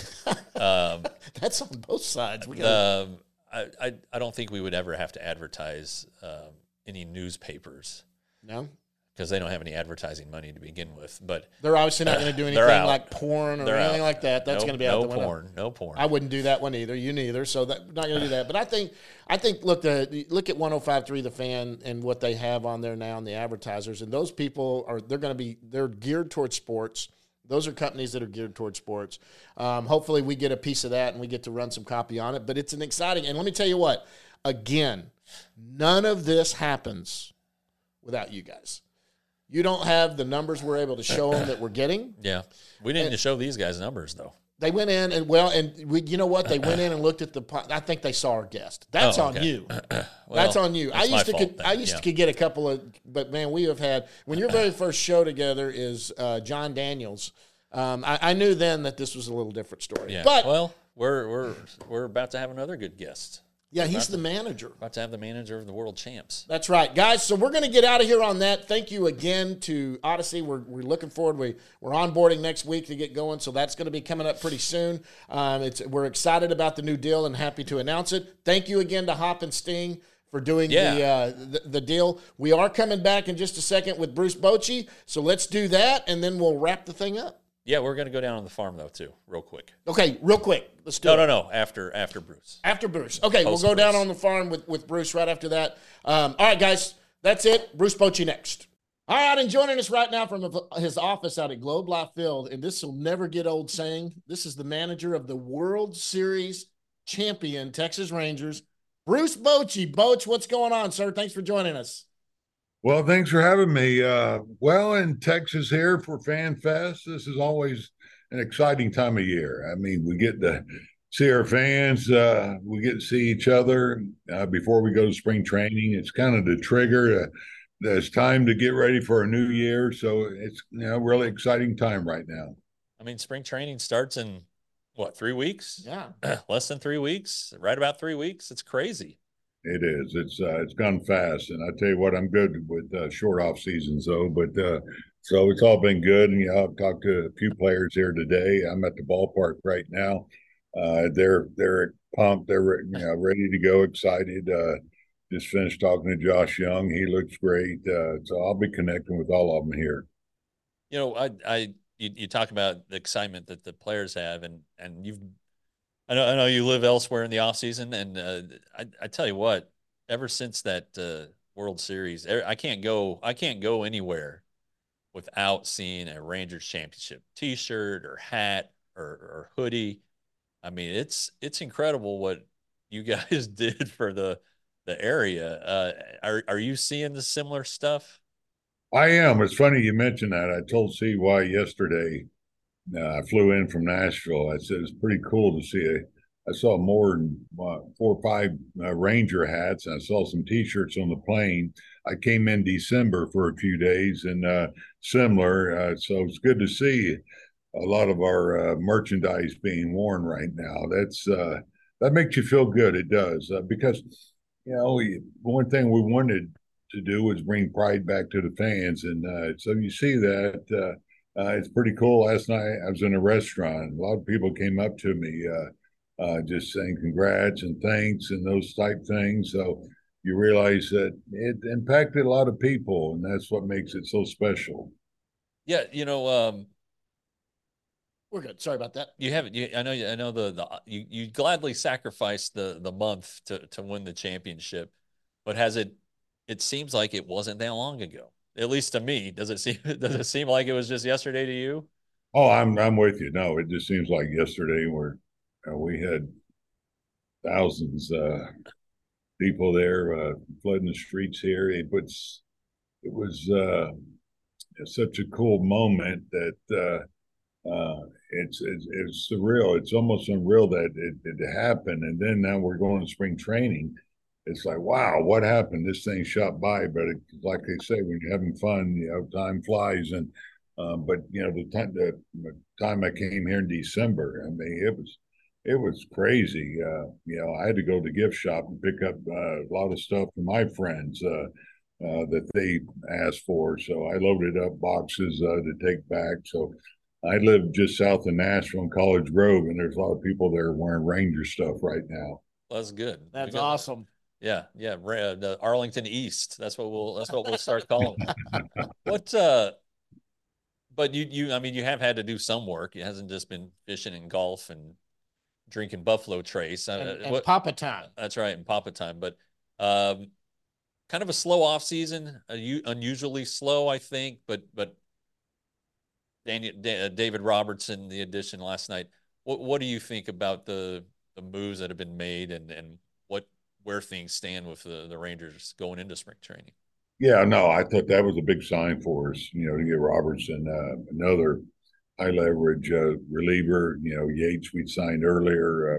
Speaker 3: um,
Speaker 2: That's on both sides. We got
Speaker 3: um, I, I I don't think we would ever have to advertise um, any newspapers
Speaker 2: no.
Speaker 3: because they don't have any advertising money to begin with. But
Speaker 2: They're obviously not going to do
Speaker 3: They're
Speaker 2: anything
Speaker 3: out.
Speaker 2: like porn or
Speaker 3: they're
Speaker 2: anything
Speaker 3: out.
Speaker 2: like that. That's
Speaker 3: no,
Speaker 2: going to be
Speaker 3: no
Speaker 2: out the window.
Speaker 3: porn, no porn.
Speaker 2: I wouldn't do that one either. You neither. So that not going to do that. But I think I think look the look at one oh five point three The Fan and what they have on there now and the advertisers and those people are they're going to be they're geared towards sports. Those are companies that are geared towards sports. Um, hopefully we get a piece of that and we get to run some copy on it. But it's an exciting and let me tell you what. Again, none of this happens without you guys. You don't have the numbers we're able to show them that we're getting.
Speaker 3: yeah, we didn't show these guys numbers though.
Speaker 2: They went in and well, and we, you know what? They went in and looked at the. po- I think they saw our guest. That's
Speaker 3: Oh,
Speaker 2: on
Speaker 3: okay.
Speaker 2: you.
Speaker 3: Well,
Speaker 2: That's on you. I
Speaker 3: that's my
Speaker 2: used to.
Speaker 3: fault
Speaker 2: Could,
Speaker 3: then,
Speaker 2: I used
Speaker 3: yeah.
Speaker 2: to could get a couple of, but man, we have had when your very first show together is uh, John Daniels. Um, I, I knew then that this was a little different story.
Speaker 3: Yeah,
Speaker 2: But
Speaker 3: well, we're we're we're about to have another good guest.
Speaker 2: yeah, he's the manager.
Speaker 3: About to have the manager of the world champs.
Speaker 2: That's right, guys. So we're going to get out of here on that. Thank you again to Odyssey. We're, we're looking forward. We, we're onboarding next week to get going, so that's going to be coming up pretty soon. Um, it's we're excited about the new deal and happy to announce it. Thank you again to Hop and Sting for doing
Speaker 3: Yeah.
Speaker 2: the, uh, the the deal. We are coming back in just a second with Bruce Bochy, so let's do that, and then we'll wrap the thing up.
Speaker 3: Yeah, we're going to go down on the farm though too, real quick.
Speaker 2: Okay, real quick. Let's do
Speaker 3: No,
Speaker 2: it.
Speaker 3: no, no. After after Bruce.
Speaker 2: After Bruce. Okay,
Speaker 3: Post
Speaker 2: we'll go down
Speaker 3: Bruce.
Speaker 2: on the farm with, with Bruce right after that. Um, all right, guys, that's it. Bruce Bochy next. All right, and joining us right now from his office out at Globe Life Field, and this will never get old saying, this is the manager of the World Series champion Texas Rangers, Bruce Bochy. Boch, what's going on, sir? Thanks for joining us.
Speaker 4: Well, thanks for having me. Uh, well, in Texas here for Fan Fest, this is always an exciting time of year. I mean, we get to see our fans. Uh, we get to see each other uh, before we go to spring training. It's kind of the trigger. Uh, it's time to get ready for a new year. So it's you know really exciting time right now.
Speaker 3: I mean, spring training starts in what, three weeks?
Speaker 2: Yeah.
Speaker 3: Less than three weeks, right about three weeks. It's crazy.
Speaker 4: It is. It's uh, it's gone fast, and I tell you what, I'm good with uh, short off seasons though. But uh, so it's all been good, and you know, I've talked to a few players here today. I'm at the ballpark right now. Uh, they're they're pumped. They're you know ready to go, excited. Uh, just finished talking to Josh Young. He looks great. Uh, so I'll be connecting with all of them here.
Speaker 3: You know, I, I, you, you talk about the excitement that the players have, and and you've, I know, I know you live elsewhere in the off season, and uh, I, I tell you what, ever since that uh, World Series, er, I can't go, I can't go anywhere without seeing a Rangers championship T-shirt or hat or, or hoodie. I mean, it's it's incredible what you guys did for the the area. Uh, are are you seeing the similar stuff?
Speaker 4: I am. It's funny you mentioned that. I told C Y yesterday. Uh, I flew in from Nashville. I said it's pretty cool to see. A, I saw more than uh, four or five uh, Ranger hats. And I saw some T-shirts on the plane. I came in December for a few days, and uh, similar. Uh, so it's good to see a lot of our uh, merchandise being worn right now. That's uh, that makes you feel good. It does uh, because you know one thing we wanted to do was bring pride back to the fans, and uh, so you see that. Uh, uh, it's pretty cool. Last night I was in a restaurant. A lot of people came up to me, uh, uh, just saying congrats and thanks and those type things. So you realize that it impacted a lot of people, and that's what makes it so special.
Speaker 3: Yeah, you know, um,
Speaker 2: We're good. Sorry about that.
Speaker 3: you haven't. You, I know. I know the the you you gladly sacrificed the the month to to win the championship, but has it? It seems like it wasn't that long ago. At least to me, does it seem? Does it seem like it was just yesterday to you?
Speaker 4: Oh, I'm I'm with you. No, it just seems like yesterday where uh, we had thousands uh, people there uh, flooding the streets here. It was it was uh, such a cool moment that uh, uh, it's, it's it's surreal. It's almost unreal that it, it happened, and then now we're going to spring training. It's like, wow, what happened? This thing shot by, but it, like they say, when you're having fun, you know, time flies. And uh, but you know, the time the, the time I came here in December, I mean, it was it was crazy. Uh, you know, I had to go to the gift shop and pick up uh, a lot of stuff for my friends uh, uh, that they asked for. So I loaded up boxes uh, to take back. So I live just south of Nashville in College Grove, and there's a lot of people there wearing Ranger stuff right now.
Speaker 3: Well, that's good.
Speaker 2: That's
Speaker 3: Because-
Speaker 2: awesome.
Speaker 3: Yeah, yeah, Ra- the Arlington East. That's what we'll. That's what we'll start calling it. What? Uh, but you, you. I mean, you have had to do some work. It hasn't just been fishing and golf and drinking Buffalo Trace.
Speaker 2: And,
Speaker 3: Uh,
Speaker 2: and
Speaker 3: what-
Speaker 2: Papa Time.
Speaker 3: That's right, and Papa time. But um, kind of a slow off season, uh, u- unusually slow, I think. But but Daniel, Da- uh, David Robertson, the addition last night. What what do you think about the the moves that have been made and and what where things stand with the the Rangers going into spring training?
Speaker 4: Yeah, no, I thought that was a big sign for us, you know, to get Robertson, uh, another high leverage uh, reliever. You know, Yates we signed earlier.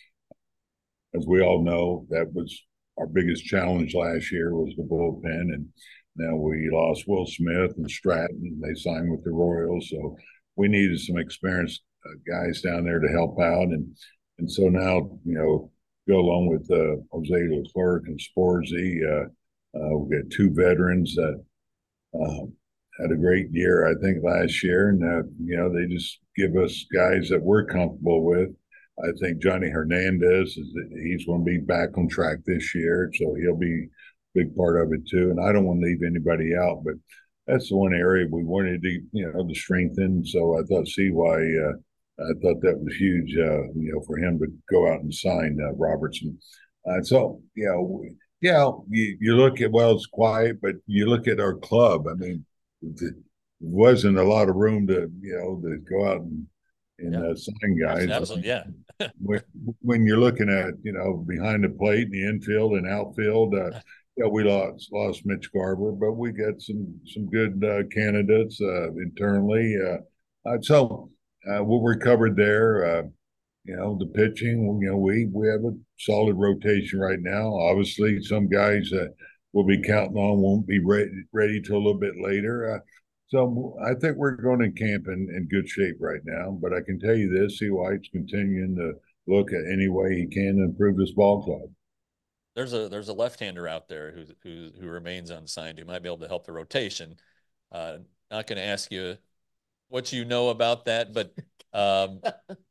Speaker 4: Uh, as we all know, that was our biggest challenge last year was the bullpen, and now we lost Will Smith and Stratton. They signed with the Royals, so we needed some experienced uh, guys down there to help out, and and so now you know go along with uh, Jose Leclerc and Sporzy. Uh, uh, we've got two veterans that uh, had a great year, I think, last year, and uh, you know they just give us guys that we're comfortable with. I think Johnny Hernandez is he's going to be back on track this year, so he'll be a big part of it too. And I don't want to leave anybody out, but that's the one area we wanted to you know to strengthen. So I thought C Y, uh, I thought that was huge, uh, you know, for him to go out and sign uh, Robertson. Uh, so you know, yeah, you, you look at well, it's quiet, but you look at our club. I mean, there wasn't a lot of room to you know to go out and and
Speaker 3: Yeah.
Speaker 4: uh, sign guys.
Speaker 3: Absolutely, yeah.
Speaker 4: when, when you're looking at you know behind the plate in the infield and outfield, uh, yeah, we lost lost Mitch Garver, but we got some some good uh, candidates uh, internally. Uh, uh, so uh, we'll recover there. Uh, you know the pitching. You know we we have a solid rotation right now. Obviously, some guys that we'll be counting on won't be ready ready till a little bit later. Uh, so I think we're going in camp in, in good shape right now. But I can tell you this: C. White's continuing to look at any way he can to improve this ball club.
Speaker 3: There's a there's a left-hander out there who who who remains unsigned who might be able to help the rotation. Uh, not going to ask you what you know about that, but um,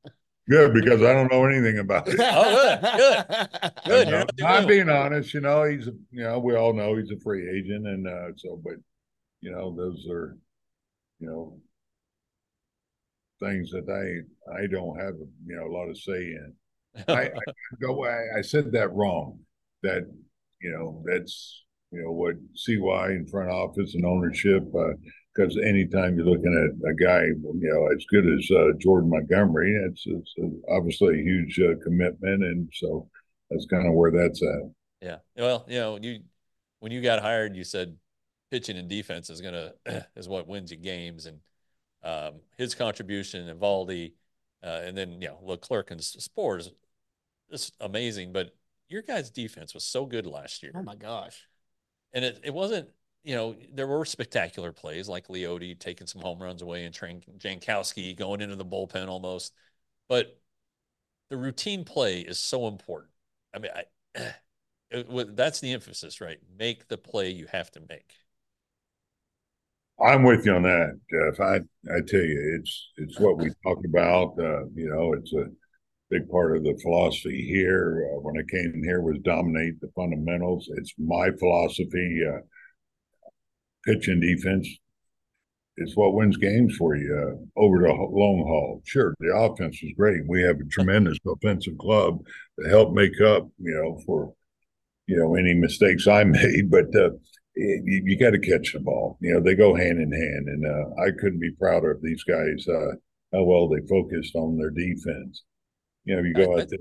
Speaker 4: Good, because I don't know anything about it.
Speaker 3: Oh, good, good, good. You're
Speaker 4: No,
Speaker 3: not the
Speaker 4: I'm
Speaker 3: only
Speaker 4: being honest. You know, he's a, you know, we all know he's a free agent, and uh, so, but you know, those are, you know, things that I I don't have, you know, a lot of say in. I,
Speaker 3: one.
Speaker 4: I go. I, I said that wrong. That you know, that's you know what C Y in front office and ownership. Because uh, anytime you're looking at a guy, you know, as good as uh, Jordan Montgomery, it's, it's obviously a huge uh, commitment, and so that's kind of where that's at.
Speaker 3: Yeah. Well, you know, you when you got hired, you said pitching and defense is gonna is what wins you games, and um, his contribution and Valdi, uh, and then you know Leclerc and Spores, it's amazing. But your guys' defense was so good last year.
Speaker 2: Oh my gosh!
Speaker 3: And it, it wasn't, you know, there were spectacular plays like Leote taking some home runs away and Tran- Jankowski going into the bullpen almost, but the routine play is so important. I mean, I. It, that's the emphasis, right? Make the play you have to make.
Speaker 4: I'm with you on that, Jeff. I I tell you, it's it's what we talk about. Uh, you know, it's a big part of the philosophy here. Uh, when I came here, was dominate the fundamentals. It's my philosophy. Uh, pitch and defense is what wins games for you uh, over the long haul. Sure, the offense is great. We have a tremendous offensive club to help make up, you know, for you know any mistakes I made, but. Uh, You, you got to catch the ball. You know, they go hand in hand. And uh, I couldn't be prouder of these guys, uh, how well they focused on their defense. You know, you go out there,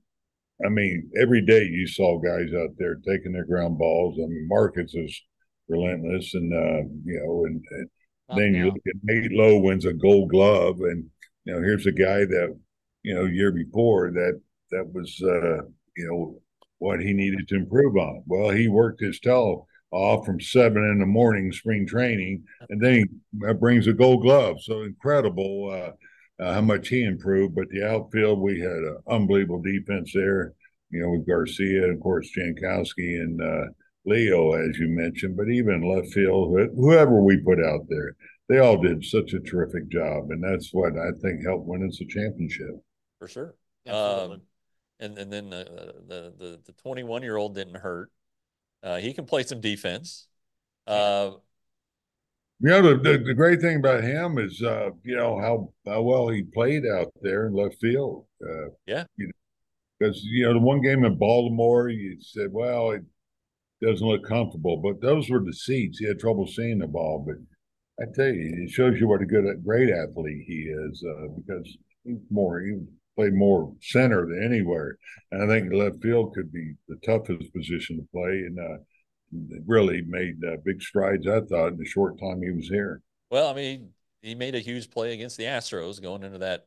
Speaker 4: I mean, every day you saw guys out there taking their ground balls. I mean, Marcus is relentless. And, uh, you know, and, and then you look at Nate Lowe wins a gold glove. And, you know, here's a guy that, you know, year before that, that was, uh, you know, what he needed to improve on. Well, he worked his tail off from seven in the morning spring training, and then he brings a gold glove. So incredible uh, uh, how much he improved. But the outfield, we had an unbelievable defense there, you know, with Garcia, and of course, Jankowski and uh, Leo, as you mentioned, but even left field, whoever we put out there, they all did such a terrific job. And that's what I think helped win us a championship.
Speaker 3: For sure. Um, and, and then uh, the, the, the twenty-one-year-old didn't hurt. Uh, he can play some defense. Uh,
Speaker 4: you know, the, the, the great thing about him is, uh, you know, how, how well he played out there in left field. Uh,
Speaker 3: yeah.
Speaker 4: You know, because, you know, the one game in Baltimore, you said, well, it doesn't look comfortable. But those were the seats. He had trouble seeing the ball. But I tell you, it shows you what a good, great athlete he is uh, because he's more, he played more center than anywhere. And I think left field could be the toughest position to play. And uh, really made uh, big strides, I thought, in the short time he was here.
Speaker 3: Well, I mean, he made a huge play against the Astros going into that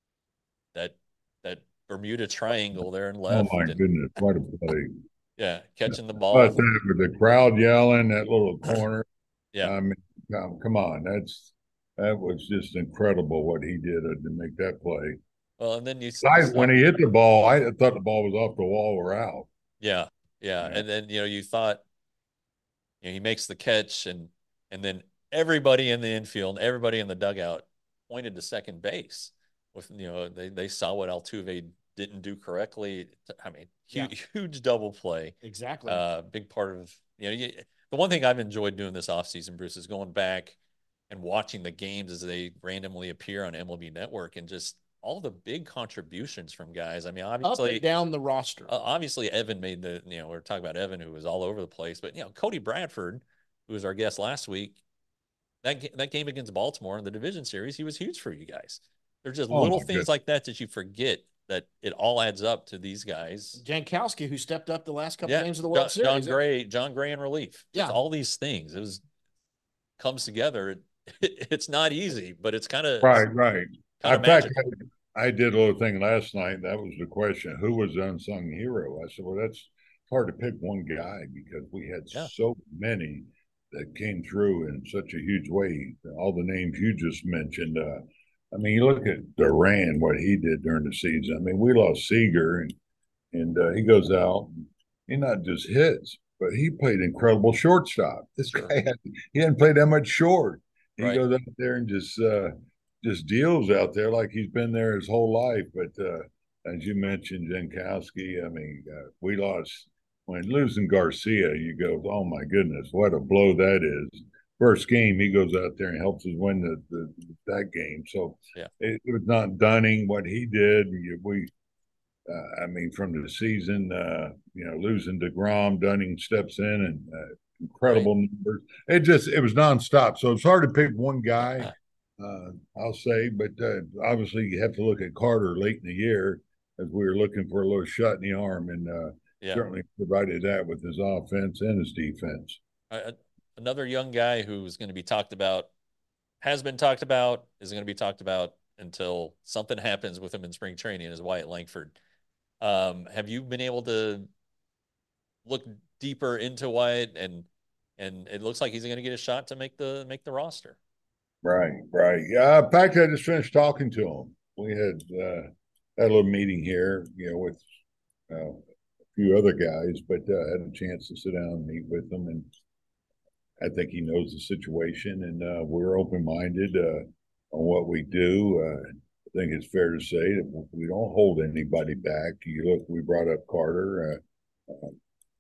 Speaker 3: that that Bermuda Triangle there and left.
Speaker 4: Oh, my
Speaker 3: and,
Speaker 4: goodness. What a play.
Speaker 3: Yeah, catching the ball.
Speaker 4: But that, with the crowd yelling, that little corner.
Speaker 3: Yeah.
Speaker 4: I mean, come on. That's That was just incredible what he did to make that play.
Speaker 3: Well, and then you,
Speaker 4: I,
Speaker 3: you
Speaker 4: when he hit the ball, I thought the ball was off the wall or out.
Speaker 3: Yeah, yeah, yeah. And then you know you thought, you know, he makes the catch, and and then everybody in the infield, everybody in the dugout pointed to second base. With you know they they saw what Altuve didn't do correctly. I mean, huge, yeah. huge double play.
Speaker 2: Exactly.
Speaker 3: Uh, big part of you know you, the one thing I've enjoyed doing this offseason, Bruce, is going back and watching the games as they randomly appear on M L B Network and just all the big contributions from guys. I mean, obviously
Speaker 2: up and down the roster.
Speaker 3: Uh, obviously, Evan made the, you know, we we're talking about Evan, who was all over the place, but, you know, Cody Bradford, who was our guest last week, that, that game against Baltimore in the division series, he was huge for you guys. There's just oh little things goodness. like that that you forget that it all adds up to these guys.
Speaker 2: Jankowski, who stepped up the last couple
Speaker 3: yeah.
Speaker 2: games of the World
Speaker 3: John,
Speaker 2: Series.
Speaker 3: John Gray, John Gray in relief.
Speaker 2: Yeah.
Speaker 3: Just all these things. It was comes together. It, it, it's not easy, but it's kind of
Speaker 4: right, right.
Speaker 3: Kind
Speaker 4: of magical. I did a little thing last night. That was the question. Who was the unsung hero? I said, well, that's hard to pick one guy because we had yeah. so many that came through in such a huge way. All the names you just mentioned. Uh, I mean, you look at Duran, what he did during the season. I mean, we lost Seager, and, and uh, he goes out. He not just hits, but he played incredible shortstop. This guy, had, he hadn't played that much short. He right. goes out there and just uh, – just deals out there like he's been there his whole life. But uh, as you mentioned, Jankowski, I mean, uh, we lost when losing Garcia. You go, oh my goodness, what a blow that is. First game, he goes out there and helps us win the, the that game. So
Speaker 3: Yeah.
Speaker 4: it, it was not Dunning what he did. We, uh, I mean, from the season, uh, you know, losing DeGrom, Dunning steps in and uh, incredible right. numbers. It just it was nonstop. So it's hard to pick one guy. Uh, I'll say, but uh, obviously you have to look at Carter late in the year as we were looking for a little shot in the arm, and uh, yeah. certainly provided that with his offense and his defense.
Speaker 3: Uh, another young guy who's going to be talked about, has been talked about, is going to be talked about until something happens with him in spring training is Wyatt Langford. Um, have you been able to look deeper into Wyatt, and and it looks like he's going to get a shot to make the make the roster?
Speaker 4: Right, right. Yeah. In fact, I just finished talking to him. We had uh, had a little meeting here, you know, with uh, a few other guys, but uh, had a chance to sit down and meet with them, and I think he knows the situation, and uh, we're open minded uh, on what we do. Uh, I think it's fair to say that we don't hold anybody back. You look, we brought up Carter. Uh, uh,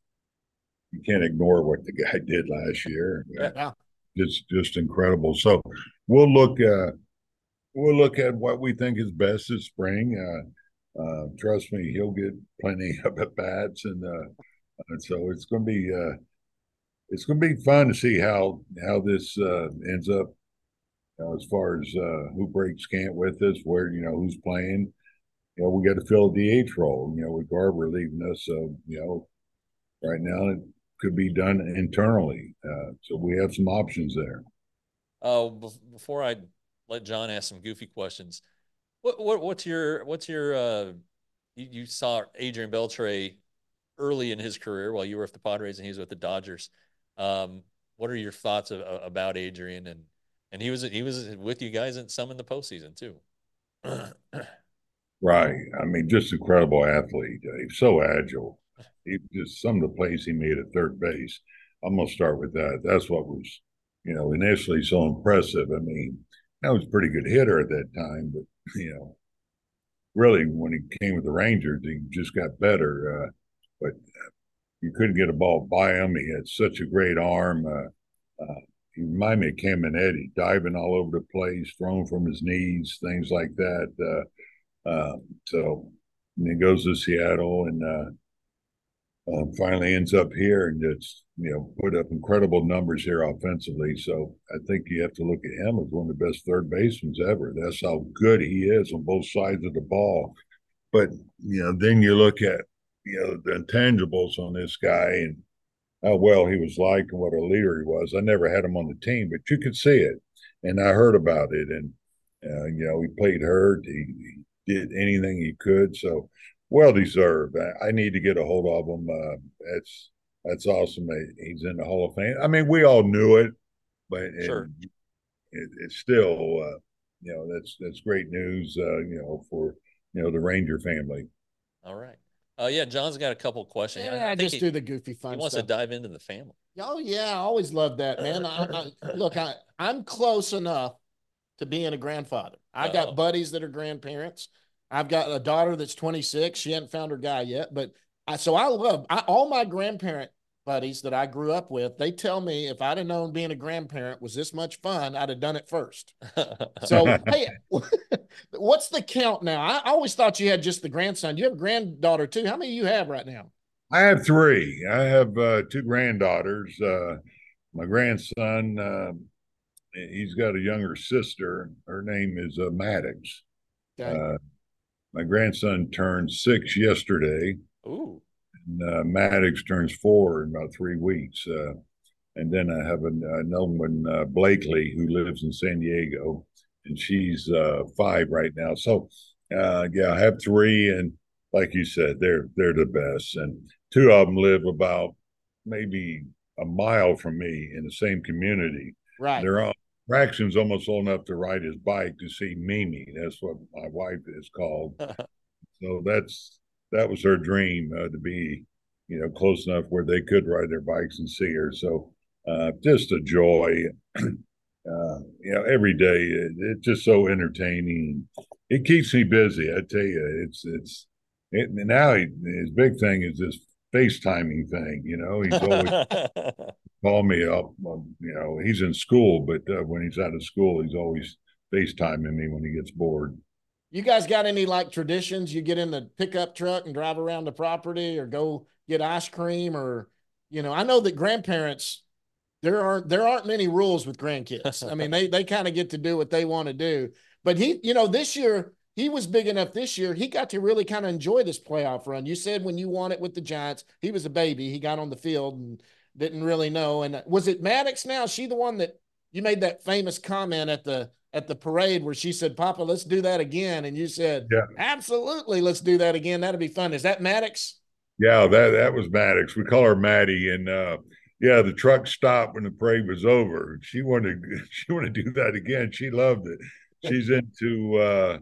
Speaker 4: you can't ignore what the guy did last year.
Speaker 2: Yeah.
Speaker 4: Uh, it's just incredible. So we'll look. Uh, we'll look at what we think is best this spring. Uh, uh, trust me, he'll get plenty of at bats, and, uh, and so it's going to be. Uh, it's going to be fun to see how how this uh, ends up. You know, as far as uh, who breaks camp with us, where, you know, who's playing. You know, we got to fill a D H role, you know, with Garber leaving us. So, you know, right now it could be done internally. Uh, so we have some options there.
Speaker 3: Oh, uh, before I let John ask some goofy questions, what, what what's your, what's your, uh, you, you saw Adrian Beltre early in his career while you were with the Padres and he was with the Dodgers. Um, what are your thoughts of, about Adrian? And, And he was he was with you guys in some in the postseason too.
Speaker 4: Right. I mean, just incredible athlete. He's so agile. He just some of the plays he made at third base. I'm gonna start with that. That's what was, you know, initially so impressive. I mean, that was a pretty good hitter at that time, but you know, really when he came with the Rangers, he just got better. Uh, but you couldn't get a ball by him. He had such a great arm. Uh, uh, He reminded me of Caminiti, diving all over the place, throwing from his knees, things like that. Uh, uh, so and he goes to Seattle and uh, uh, finally ends up here and just, you know, put up incredible numbers here offensively. So I think you have to look at him as one of the best third basemen ever. That's how good he is on both sides of the ball. But, you know, then you look at, you know, the intangibles on this guy and how well he was liked and what a leader he was. I never had him on the team, but you could see it. And I heard about it. And, uh, you know, he played hurt. He, he did anything he could. So well deserved. I, I need to get a hold of him. Uh, that's that's awesome. He's in the Hall of Fame. I mean, we all knew it, but
Speaker 3: sure.
Speaker 4: it, it, it's still, uh, you know, that's that's great news, uh, you know, for, you know, the Ranger family.
Speaker 3: All right. Uh, yeah, John's got a couple questions.
Speaker 2: Yeah, I, I just he, do the goofy fun
Speaker 3: He wants
Speaker 2: stuff.
Speaker 3: to dive into the family.
Speaker 2: Oh, yeah, I always loved that, man. I, I, look, I, I'm close enough to being a grandfather. I got
Speaker 3: Uh-oh.
Speaker 2: buddies that are grandparents. I've got a daughter that's twenty-six. She hadn't found her guy yet, but I, so I love I, all my grandparent buddies that I grew up with. They tell me if I'd have known being a grandparent was this much fun, I'd have done it first. So, hey, what's the count now? I always thought you had just the grandson. You have a granddaughter too. How many do you have right now?
Speaker 4: I have three. I have uh, two granddaughters. Uh, my grandson, uh, he's got a younger sister. Her name is uh, Maddox.
Speaker 2: Okay.
Speaker 4: Uh, my grandson turned six yesterday.
Speaker 3: Ooh.
Speaker 4: And, uh, Maddox turns four in about three weeks. Uh, and then I have an, another one, uh, Blakely, who lives in San Diego, and she's uh, five right now. So, uh, yeah, I have three, and like you said, they're they're the best. And two of them live about maybe a mile from me in the same community.
Speaker 2: Right.
Speaker 4: They're on. Braxton's almost old enough to ride his bike to see Mimi. That's what my wife is called. So that's that was her dream, uh, to be, you know, close enough where they could ride their bikes and see her. So uh, just a joy. uh, you know, every day. It, it's just so entertaining. It keeps me busy. I tell you, it's it's it, now he, his big thing is this FaceTiming thing. You know, he's always call me up. Um, you know, he's in school, but uh, when he's out of school, he's always FaceTiming me when he gets bored.
Speaker 2: You guys got any like traditions? You get in the pickup truck and drive around the property, or go get ice cream, or you know, I know that grandparents, there aren't there aren't many rules with grandkids. I mean, they they kind of get to do what they want to do. But he, you know, this year he was big enough. This year he got to really kind of enjoy this playoff run. You said when you won it with the Giants, he was a baby. He got on the field and didn't really know. And was it Maddox now? Is she the one that you made that famous comment at the at the parade where she said, "Papa, let's do that again," and you said,
Speaker 4: Yeah,
Speaker 2: "Absolutely, let's do that again. That'd be fun." Is that Maddox?
Speaker 4: yeah, that that was Maddox. We call her Maddie, and uh, yeah, the truck stopped when the parade was over. She wanted she wanted to do that again. She loved it. She's into uh,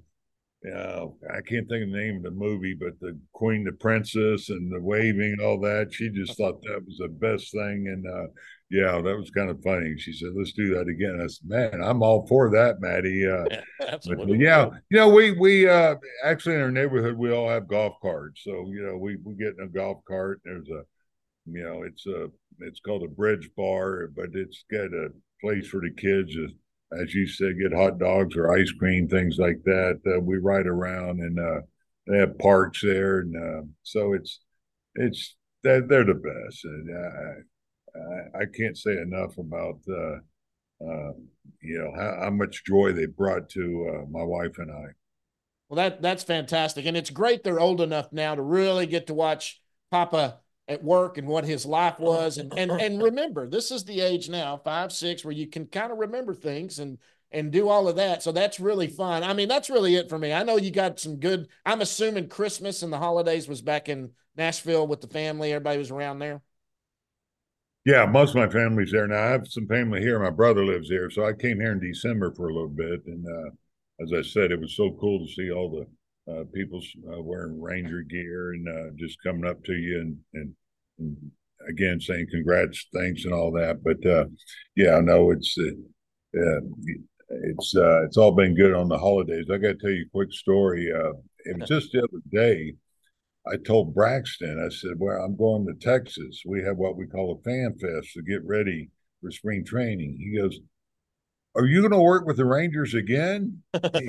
Speaker 4: uh, I can't think of the name of the movie, but the Queen, the Princess, and the waving, all that. She just thought that was the best thing, and uh, yeah, that was kind of funny. She said, "Let's do that again." I said, "Man, I'm all for that, Maddie." Uh,
Speaker 3: Yeah,
Speaker 4: but
Speaker 3: absolutely.
Speaker 4: yeah, you know, we we uh, actually in our neighborhood we all have golf carts, so you know we we get in a golf cart. There's a you know it's a it's called a bridge bar, but it's got a place for the kids to, as you said, get hot dogs or ice cream, things like that. Uh, we ride around, and uh, they have parks there, and uh, so it's it's they're, they're the best. And I, I I can't say enough about uh, uh, you know how, how much joy they brought to uh, my wife and I.
Speaker 2: Well, that that's fantastic, and it's great they're old enough now to really get to watch Papa at work and what his life was, and and and remember, this is the age now, five, six, where you can kind of remember things and and do all of that. So that's really fun. I mean, that's really it for me. I know you got some good. I'm assuming Christmas and the holidays was back in Nashville with the family. Everybody was around there.
Speaker 4: Yeah, most of my family's there now. I have some family here. My brother lives here, so I came here in December for a little bit, and uh, as I said, it was so cool to see all the uh, people uh, wearing Ranger gear and uh, just coming up to you and, and, and again saying congrats, thanks, and all that. But uh, yeah, no, it's uh, uh, it's uh, it's all been good on the holidays. I got to tell you a quick story. Uh, it was just the other day. I told Braxton, I said, "Well, I'm going to Texas. We have what we call a fan fest to get ready for spring training." He goes, "Are you going to work with the Rangers again?" He,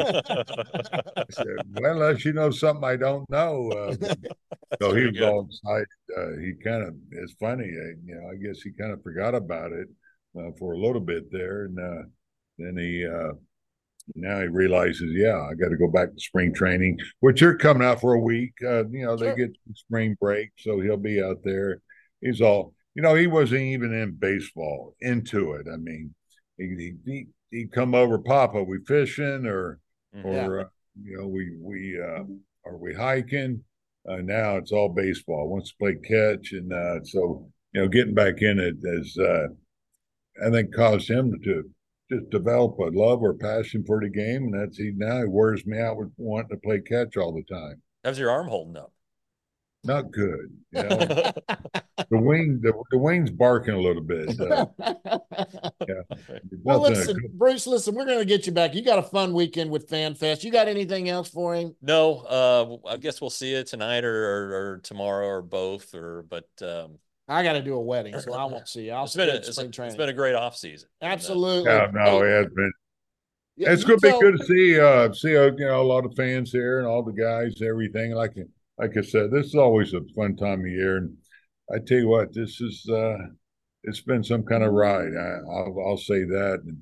Speaker 4: I said, "Well, unless you know something I don't know." Uh, so he was all excited. Uh, he kind of, it's funny, uh, you know, I guess he kind of forgot about it uh, for a little bit there. And uh, then he, uh, now he realizes, yeah, I got to go back to spring training, which you're coming out for a week. Uh, you know, they
Speaker 2: Sure.
Speaker 4: get spring break, so he'll be out there. He's all, you know, he wasn't even in baseball, into it. I mean, he, he, he'd come over, "Papa, we fishing or,
Speaker 2: Yeah.
Speaker 4: or, uh, you know, we, we, uh, are we hiking?" Uh, now it's all baseball. Wants to play catch. And uh, so, you know, getting back in it has, uh, I think, caused him to just develop a love or passion for the game, and that's he now he wears me out with wanting to play catch all the time.
Speaker 3: How's your arm holding up?
Speaker 4: Not good, you know. the wing, the, the wing's barking a little bit. Uh, yeah,
Speaker 2: Well,
Speaker 4: nothing.
Speaker 2: listen, Bruce, listen, we're going to get you back. You got a fun weekend with Fan Fest. You got anything else for him?
Speaker 3: No, uh, I guess we'll see you tonight or, or, or tomorrow or both. Or but um,
Speaker 2: I got to do a wedding, so I won't see you. I'll
Speaker 3: it's been a,
Speaker 2: spend
Speaker 3: it's,
Speaker 2: spring
Speaker 3: it's
Speaker 2: training.
Speaker 3: been a great off season.
Speaker 2: Absolutely.
Speaker 4: Yeah, no, it has been.
Speaker 2: Yeah,
Speaker 4: It's
Speaker 2: you
Speaker 4: going to be
Speaker 2: tell-
Speaker 4: good to see uh see uh, you know a lot of fans here and all the guys, everything. Like like I said, this is always a fun time of year, and I tell you what, this is uh it's been some kind of ride. I, I'll I'll say that. And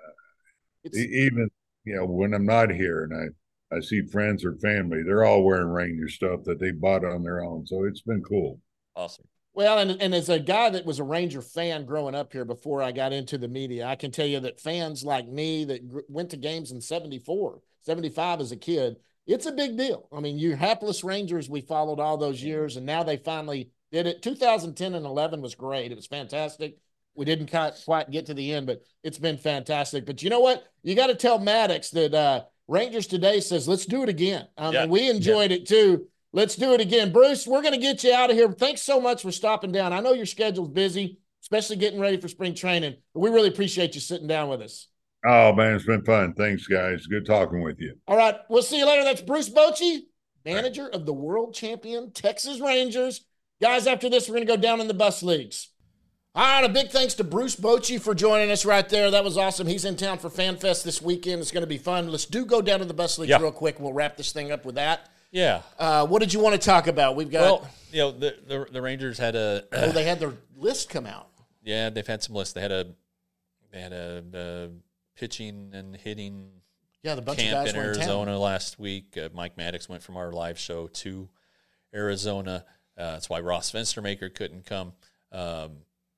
Speaker 2: It's,
Speaker 4: e- even you know when I'm not here and I I see friends or family, they're all wearing Ranger stuff that they bought on their own. So it's been cool.
Speaker 3: Awesome.
Speaker 2: well, and, and as a guy that was a Ranger fan growing up here before I got into the media, I can tell you that fans like me that gr- went to games in seventy-four, seventy-five as a kid, it's a big deal. I mean, you hapless Rangers, we followed all those years, and now they finally did it. two thousand ten and eleven was great. It was fantastic. We didn't quite, quite get to the end, but it's been fantastic. But you know what? You got to tell Maddox that uh, Rangers Today says, let's do it again. Um,
Speaker 3: Yeah.
Speaker 2: And we enjoyed it too. Let's do it again. Bruce, we're going to get you out of here. Thanks so much for stopping down. I know your schedule's busy, especially getting ready for spring training, but we really appreciate you sitting down with us.
Speaker 4: Oh, man, it's been fun. Thanks, guys. Good talking with you.
Speaker 2: All right, we'll see you later. That's Bruce Bochy, manager of the world champion Texas Rangers. Guys, after this, we're going to go down in the bus leagues. All right, a big thanks to Bruce Bochy for joining us right there. That was awesome. He's in town for FanFest this weekend. It's going to be fun. Let's do go down to the bus leagues
Speaker 3: Yeah.
Speaker 2: real quick. We'll wrap this thing up with that.
Speaker 3: Yeah.
Speaker 2: Uh, what did you want to talk about? We've got.
Speaker 3: Well, you know, the the, the Rangers had a.
Speaker 2: oh, they had their list come out.
Speaker 3: Yeah, they've had some lists. They had a. They had a, a pitching and hitting
Speaker 2: Yeah, the bunch
Speaker 3: camp
Speaker 2: of guys
Speaker 3: in
Speaker 2: were in
Speaker 3: Arizona
Speaker 2: town.
Speaker 3: last week. Uh, Mike Maddox went from our live show to Arizona. Uh, that's why Ross Venstermaker couldn't come. Um,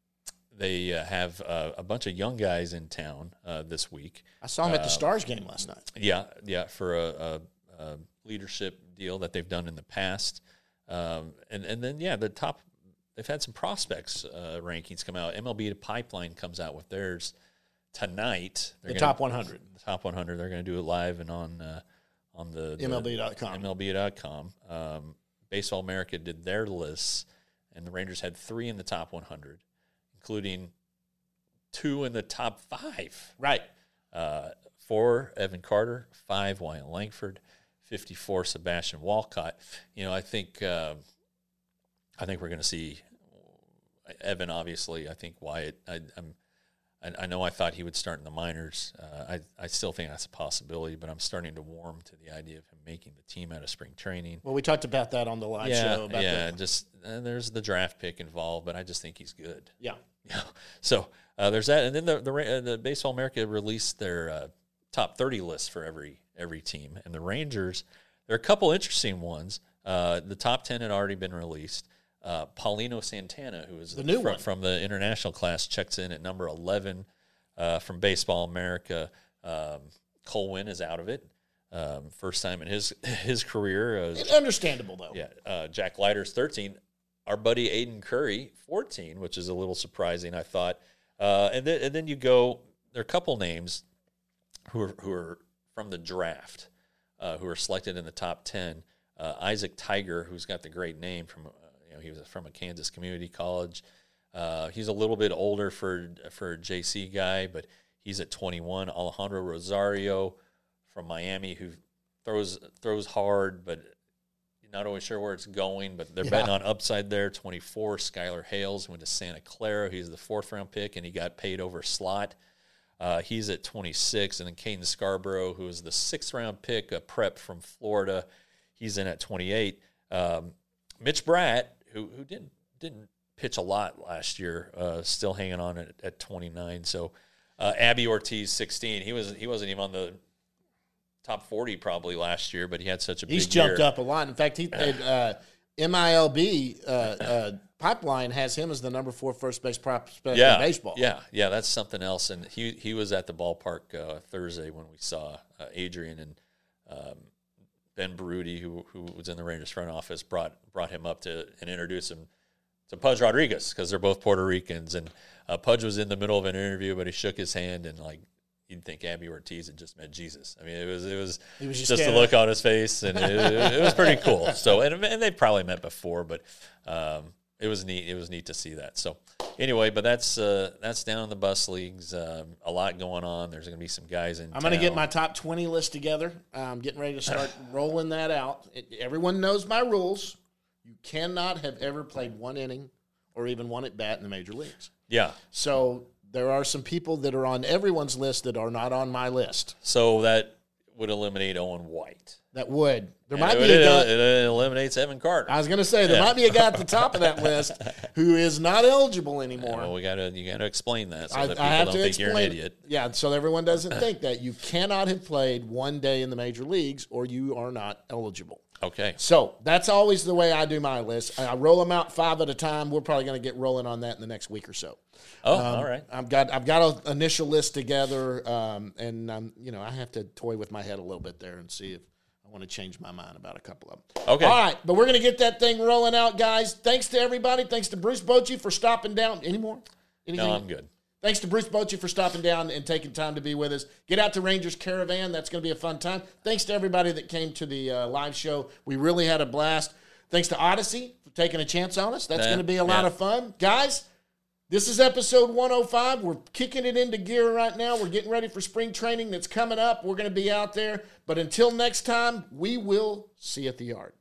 Speaker 3: they uh, have uh, a bunch of young guys in town uh, this week.
Speaker 2: I saw him at the
Speaker 3: Uh,
Speaker 2: Stars game last night.
Speaker 3: Yeah, yeah, for a, a, a leadership deal that they've done in the past, um, and and then yeah, the top. They've had some prospects uh, rankings come out. M L B Pipeline comes out with theirs tonight. They're
Speaker 2: The
Speaker 3: gonna,
Speaker 2: top one hundred.
Speaker 3: The top one hundred. They're going to do it live and on uh, on the, the
Speaker 2: M L B dot com.
Speaker 3: M L B dot com. Um, Baseball America did their lists, and the Rangers had three in the top one hundred, including two in the top five.
Speaker 2: Right.
Speaker 3: Uh, four, Evan Carter. Five, Wyatt Langford. fifty-four, Sebastian Walcott. You know, I think uh, I think we're going to see Evan. Obviously, I think Wyatt. I, I'm. I, I know I thought he would start in the minors. Uh, I I still think that's a possibility, but I'm starting to warm to the idea of him making the team out of spring training.
Speaker 2: Well, we talked about that on the live
Speaker 3: yeah,
Speaker 2: show. About
Speaker 3: yeah.
Speaker 2: the,
Speaker 3: Just uh, there's the draft pick involved, but I just think he's good.
Speaker 2: yeah.
Speaker 3: Yeah. So uh, there's that, and then the the, uh, the Baseball America released their uh, top thirty list for every every team, and the Rangers. There are a couple interesting ones. Uh, the top ten had already been released. Uh, Paulino Santana, who is
Speaker 2: The new
Speaker 3: from,
Speaker 2: one.
Speaker 3: from the international class, checks in at number eleven uh, from Baseball America. Um, Cole Winn is out of it. Um, first time in his his career. Uh,
Speaker 2: Understandable, though.
Speaker 3: yeah, uh, Jack Leiter's thirteen. Our buddy Aiden Curry, fourteen, which is a little surprising, I thought. Uh, and then and then you go. There are a couple names who are who are from the draft, uh, who are selected in the top ten. Uh, Isaac Tiger, who's got the great name from, uh, you know, he was from a Kansas community college. Uh, he's a little bit older for for a J C guy, but he's at twenty-one. Alejandro Rosario from Miami, who throws throws hard, but you're not always sure where it's going. But they're
Speaker 2: Yeah.
Speaker 3: betting on upside there. twenty-four. Skylar Hales went to Santa Clara. He's the fourth round pick, and he got paid over slot. Uh, he's at twenty-six, and then Caden Scarborough, who is the sixth round pick, a prep from Florida, he's in at twenty-eight. Um, Mitch Bratt, who who didn't didn't pitch a lot last year, uh, still hanging on at, at twenty-nine. So uh, Abby Ortiz, sixteen. He was he wasn't even on the top forty probably last year, but he had such a
Speaker 2: He's
Speaker 3: big
Speaker 2: jumped
Speaker 3: year.
Speaker 2: up a lot. In fact, he uh, M I L B uh, uh, Pipeline has him as the number four first base prospect
Speaker 3: Yeah,
Speaker 2: in baseball.
Speaker 3: yeah, yeah. That's something else. And he he was at the ballpark uh, Thursday when we saw uh, Adrian and um, Ben Baruti, who who was in the Rangers front office, brought brought him up to and introduced him to Pudge Rodriguez because they're both Puerto Ricans. And uh, Pudge was in the middle of an interview, but he shook his hand and like you'd think Abby Ortiz had just met Jesus. I mean, it was it was,
Speaker 2: He was just
Speaker 3: just, a
Speaker 2: kinda-
Speaker 3: look on his face, and it, it was pretty cool. So and, and they probably met before, but um, it was neat. It was neat to see that. So anyway, but that's uh, that's down in the bus leagues. Um, a lot going on. There's going to be some guys in.
Speaker 2: I'm going to get
Speaker 3: town.
Speaker 2: my top twenty list together. I'm getting ready to start rolling that out. It, everyone knows my rules. You cannot have ever played one inning or even one at bat in the major leagues.
Speaker 3: Yeah.
Speaker 2: So there are some people that are on everyone's list that are not on my list.
Speaker 3: So that would eliminate Owen White.
Speaker 2: That would. There
Speaker 3: And
Speaker 2: might
Speaker 3: it,
Speaker 2: be a
Speaker 3: it,
Speaker 2: guy.
Speaker 3: it eliminates Evan Carter.
Speaker 2: I was going to say there
Speaker 3: Yeah.
Speaker 2: might be a guy at the top of that list who is not eligible anymore.
Speaker 3: well, we gotta you gotta explain that so
Speaker 2: I,
Speaker 3: that
Speaker 2: I
Speaker 3: people
Speaker 2: have
Speaker 3: don't
Speaker 2: to
Speaker 3: think you're an
Speaker 2: explain.
Speaker 3: idiot.
Speaker 2: Yeah, so everyone doesn't think that you cannot have played one day in the major leagues or you are not eligible.
Speaker 3: Okay.
Speaker 2: So that's always the way I do my list. I roll them out five at a time. We're probably going to get rolling on that in the next week or so.
Speaker 3: Oh,
Speaker 2: Um,
Speaker 3: all right.
Speaker 2: I've got I've got an initial list together, um, and um, you know I have to toy with my head a little bit there and see if I want to change my mind about a couple of them.
Speaker 3: Okay.
Speaker 2: All right, but we're going to get that thing rolling out, guys. Thanks to everybody. Thanks to Bruce Bochy for stopping down. Any more? Anything?
Speaker 3: No, I'm good.
Speaker 2: Thanks to Bruce Bochy for stopping down and taking time to be with us. Get out to Rangers Caravan. That's going to be a fun time. Thanks to everybody that came to the uh, live show. We really had a blast. Thanks to Odyssey for taking a chance on us. That's
Speaker 3: Yeah,
Speaker 2: going to be a lot
Speaker 3: yeah.
Speaker 2: of fun. Guys, This is episode one oh five. We're kicking it into gear right now. We're getting ready for spring training that's coming up. We're going to be out there. But until next time, we will see you at the yard.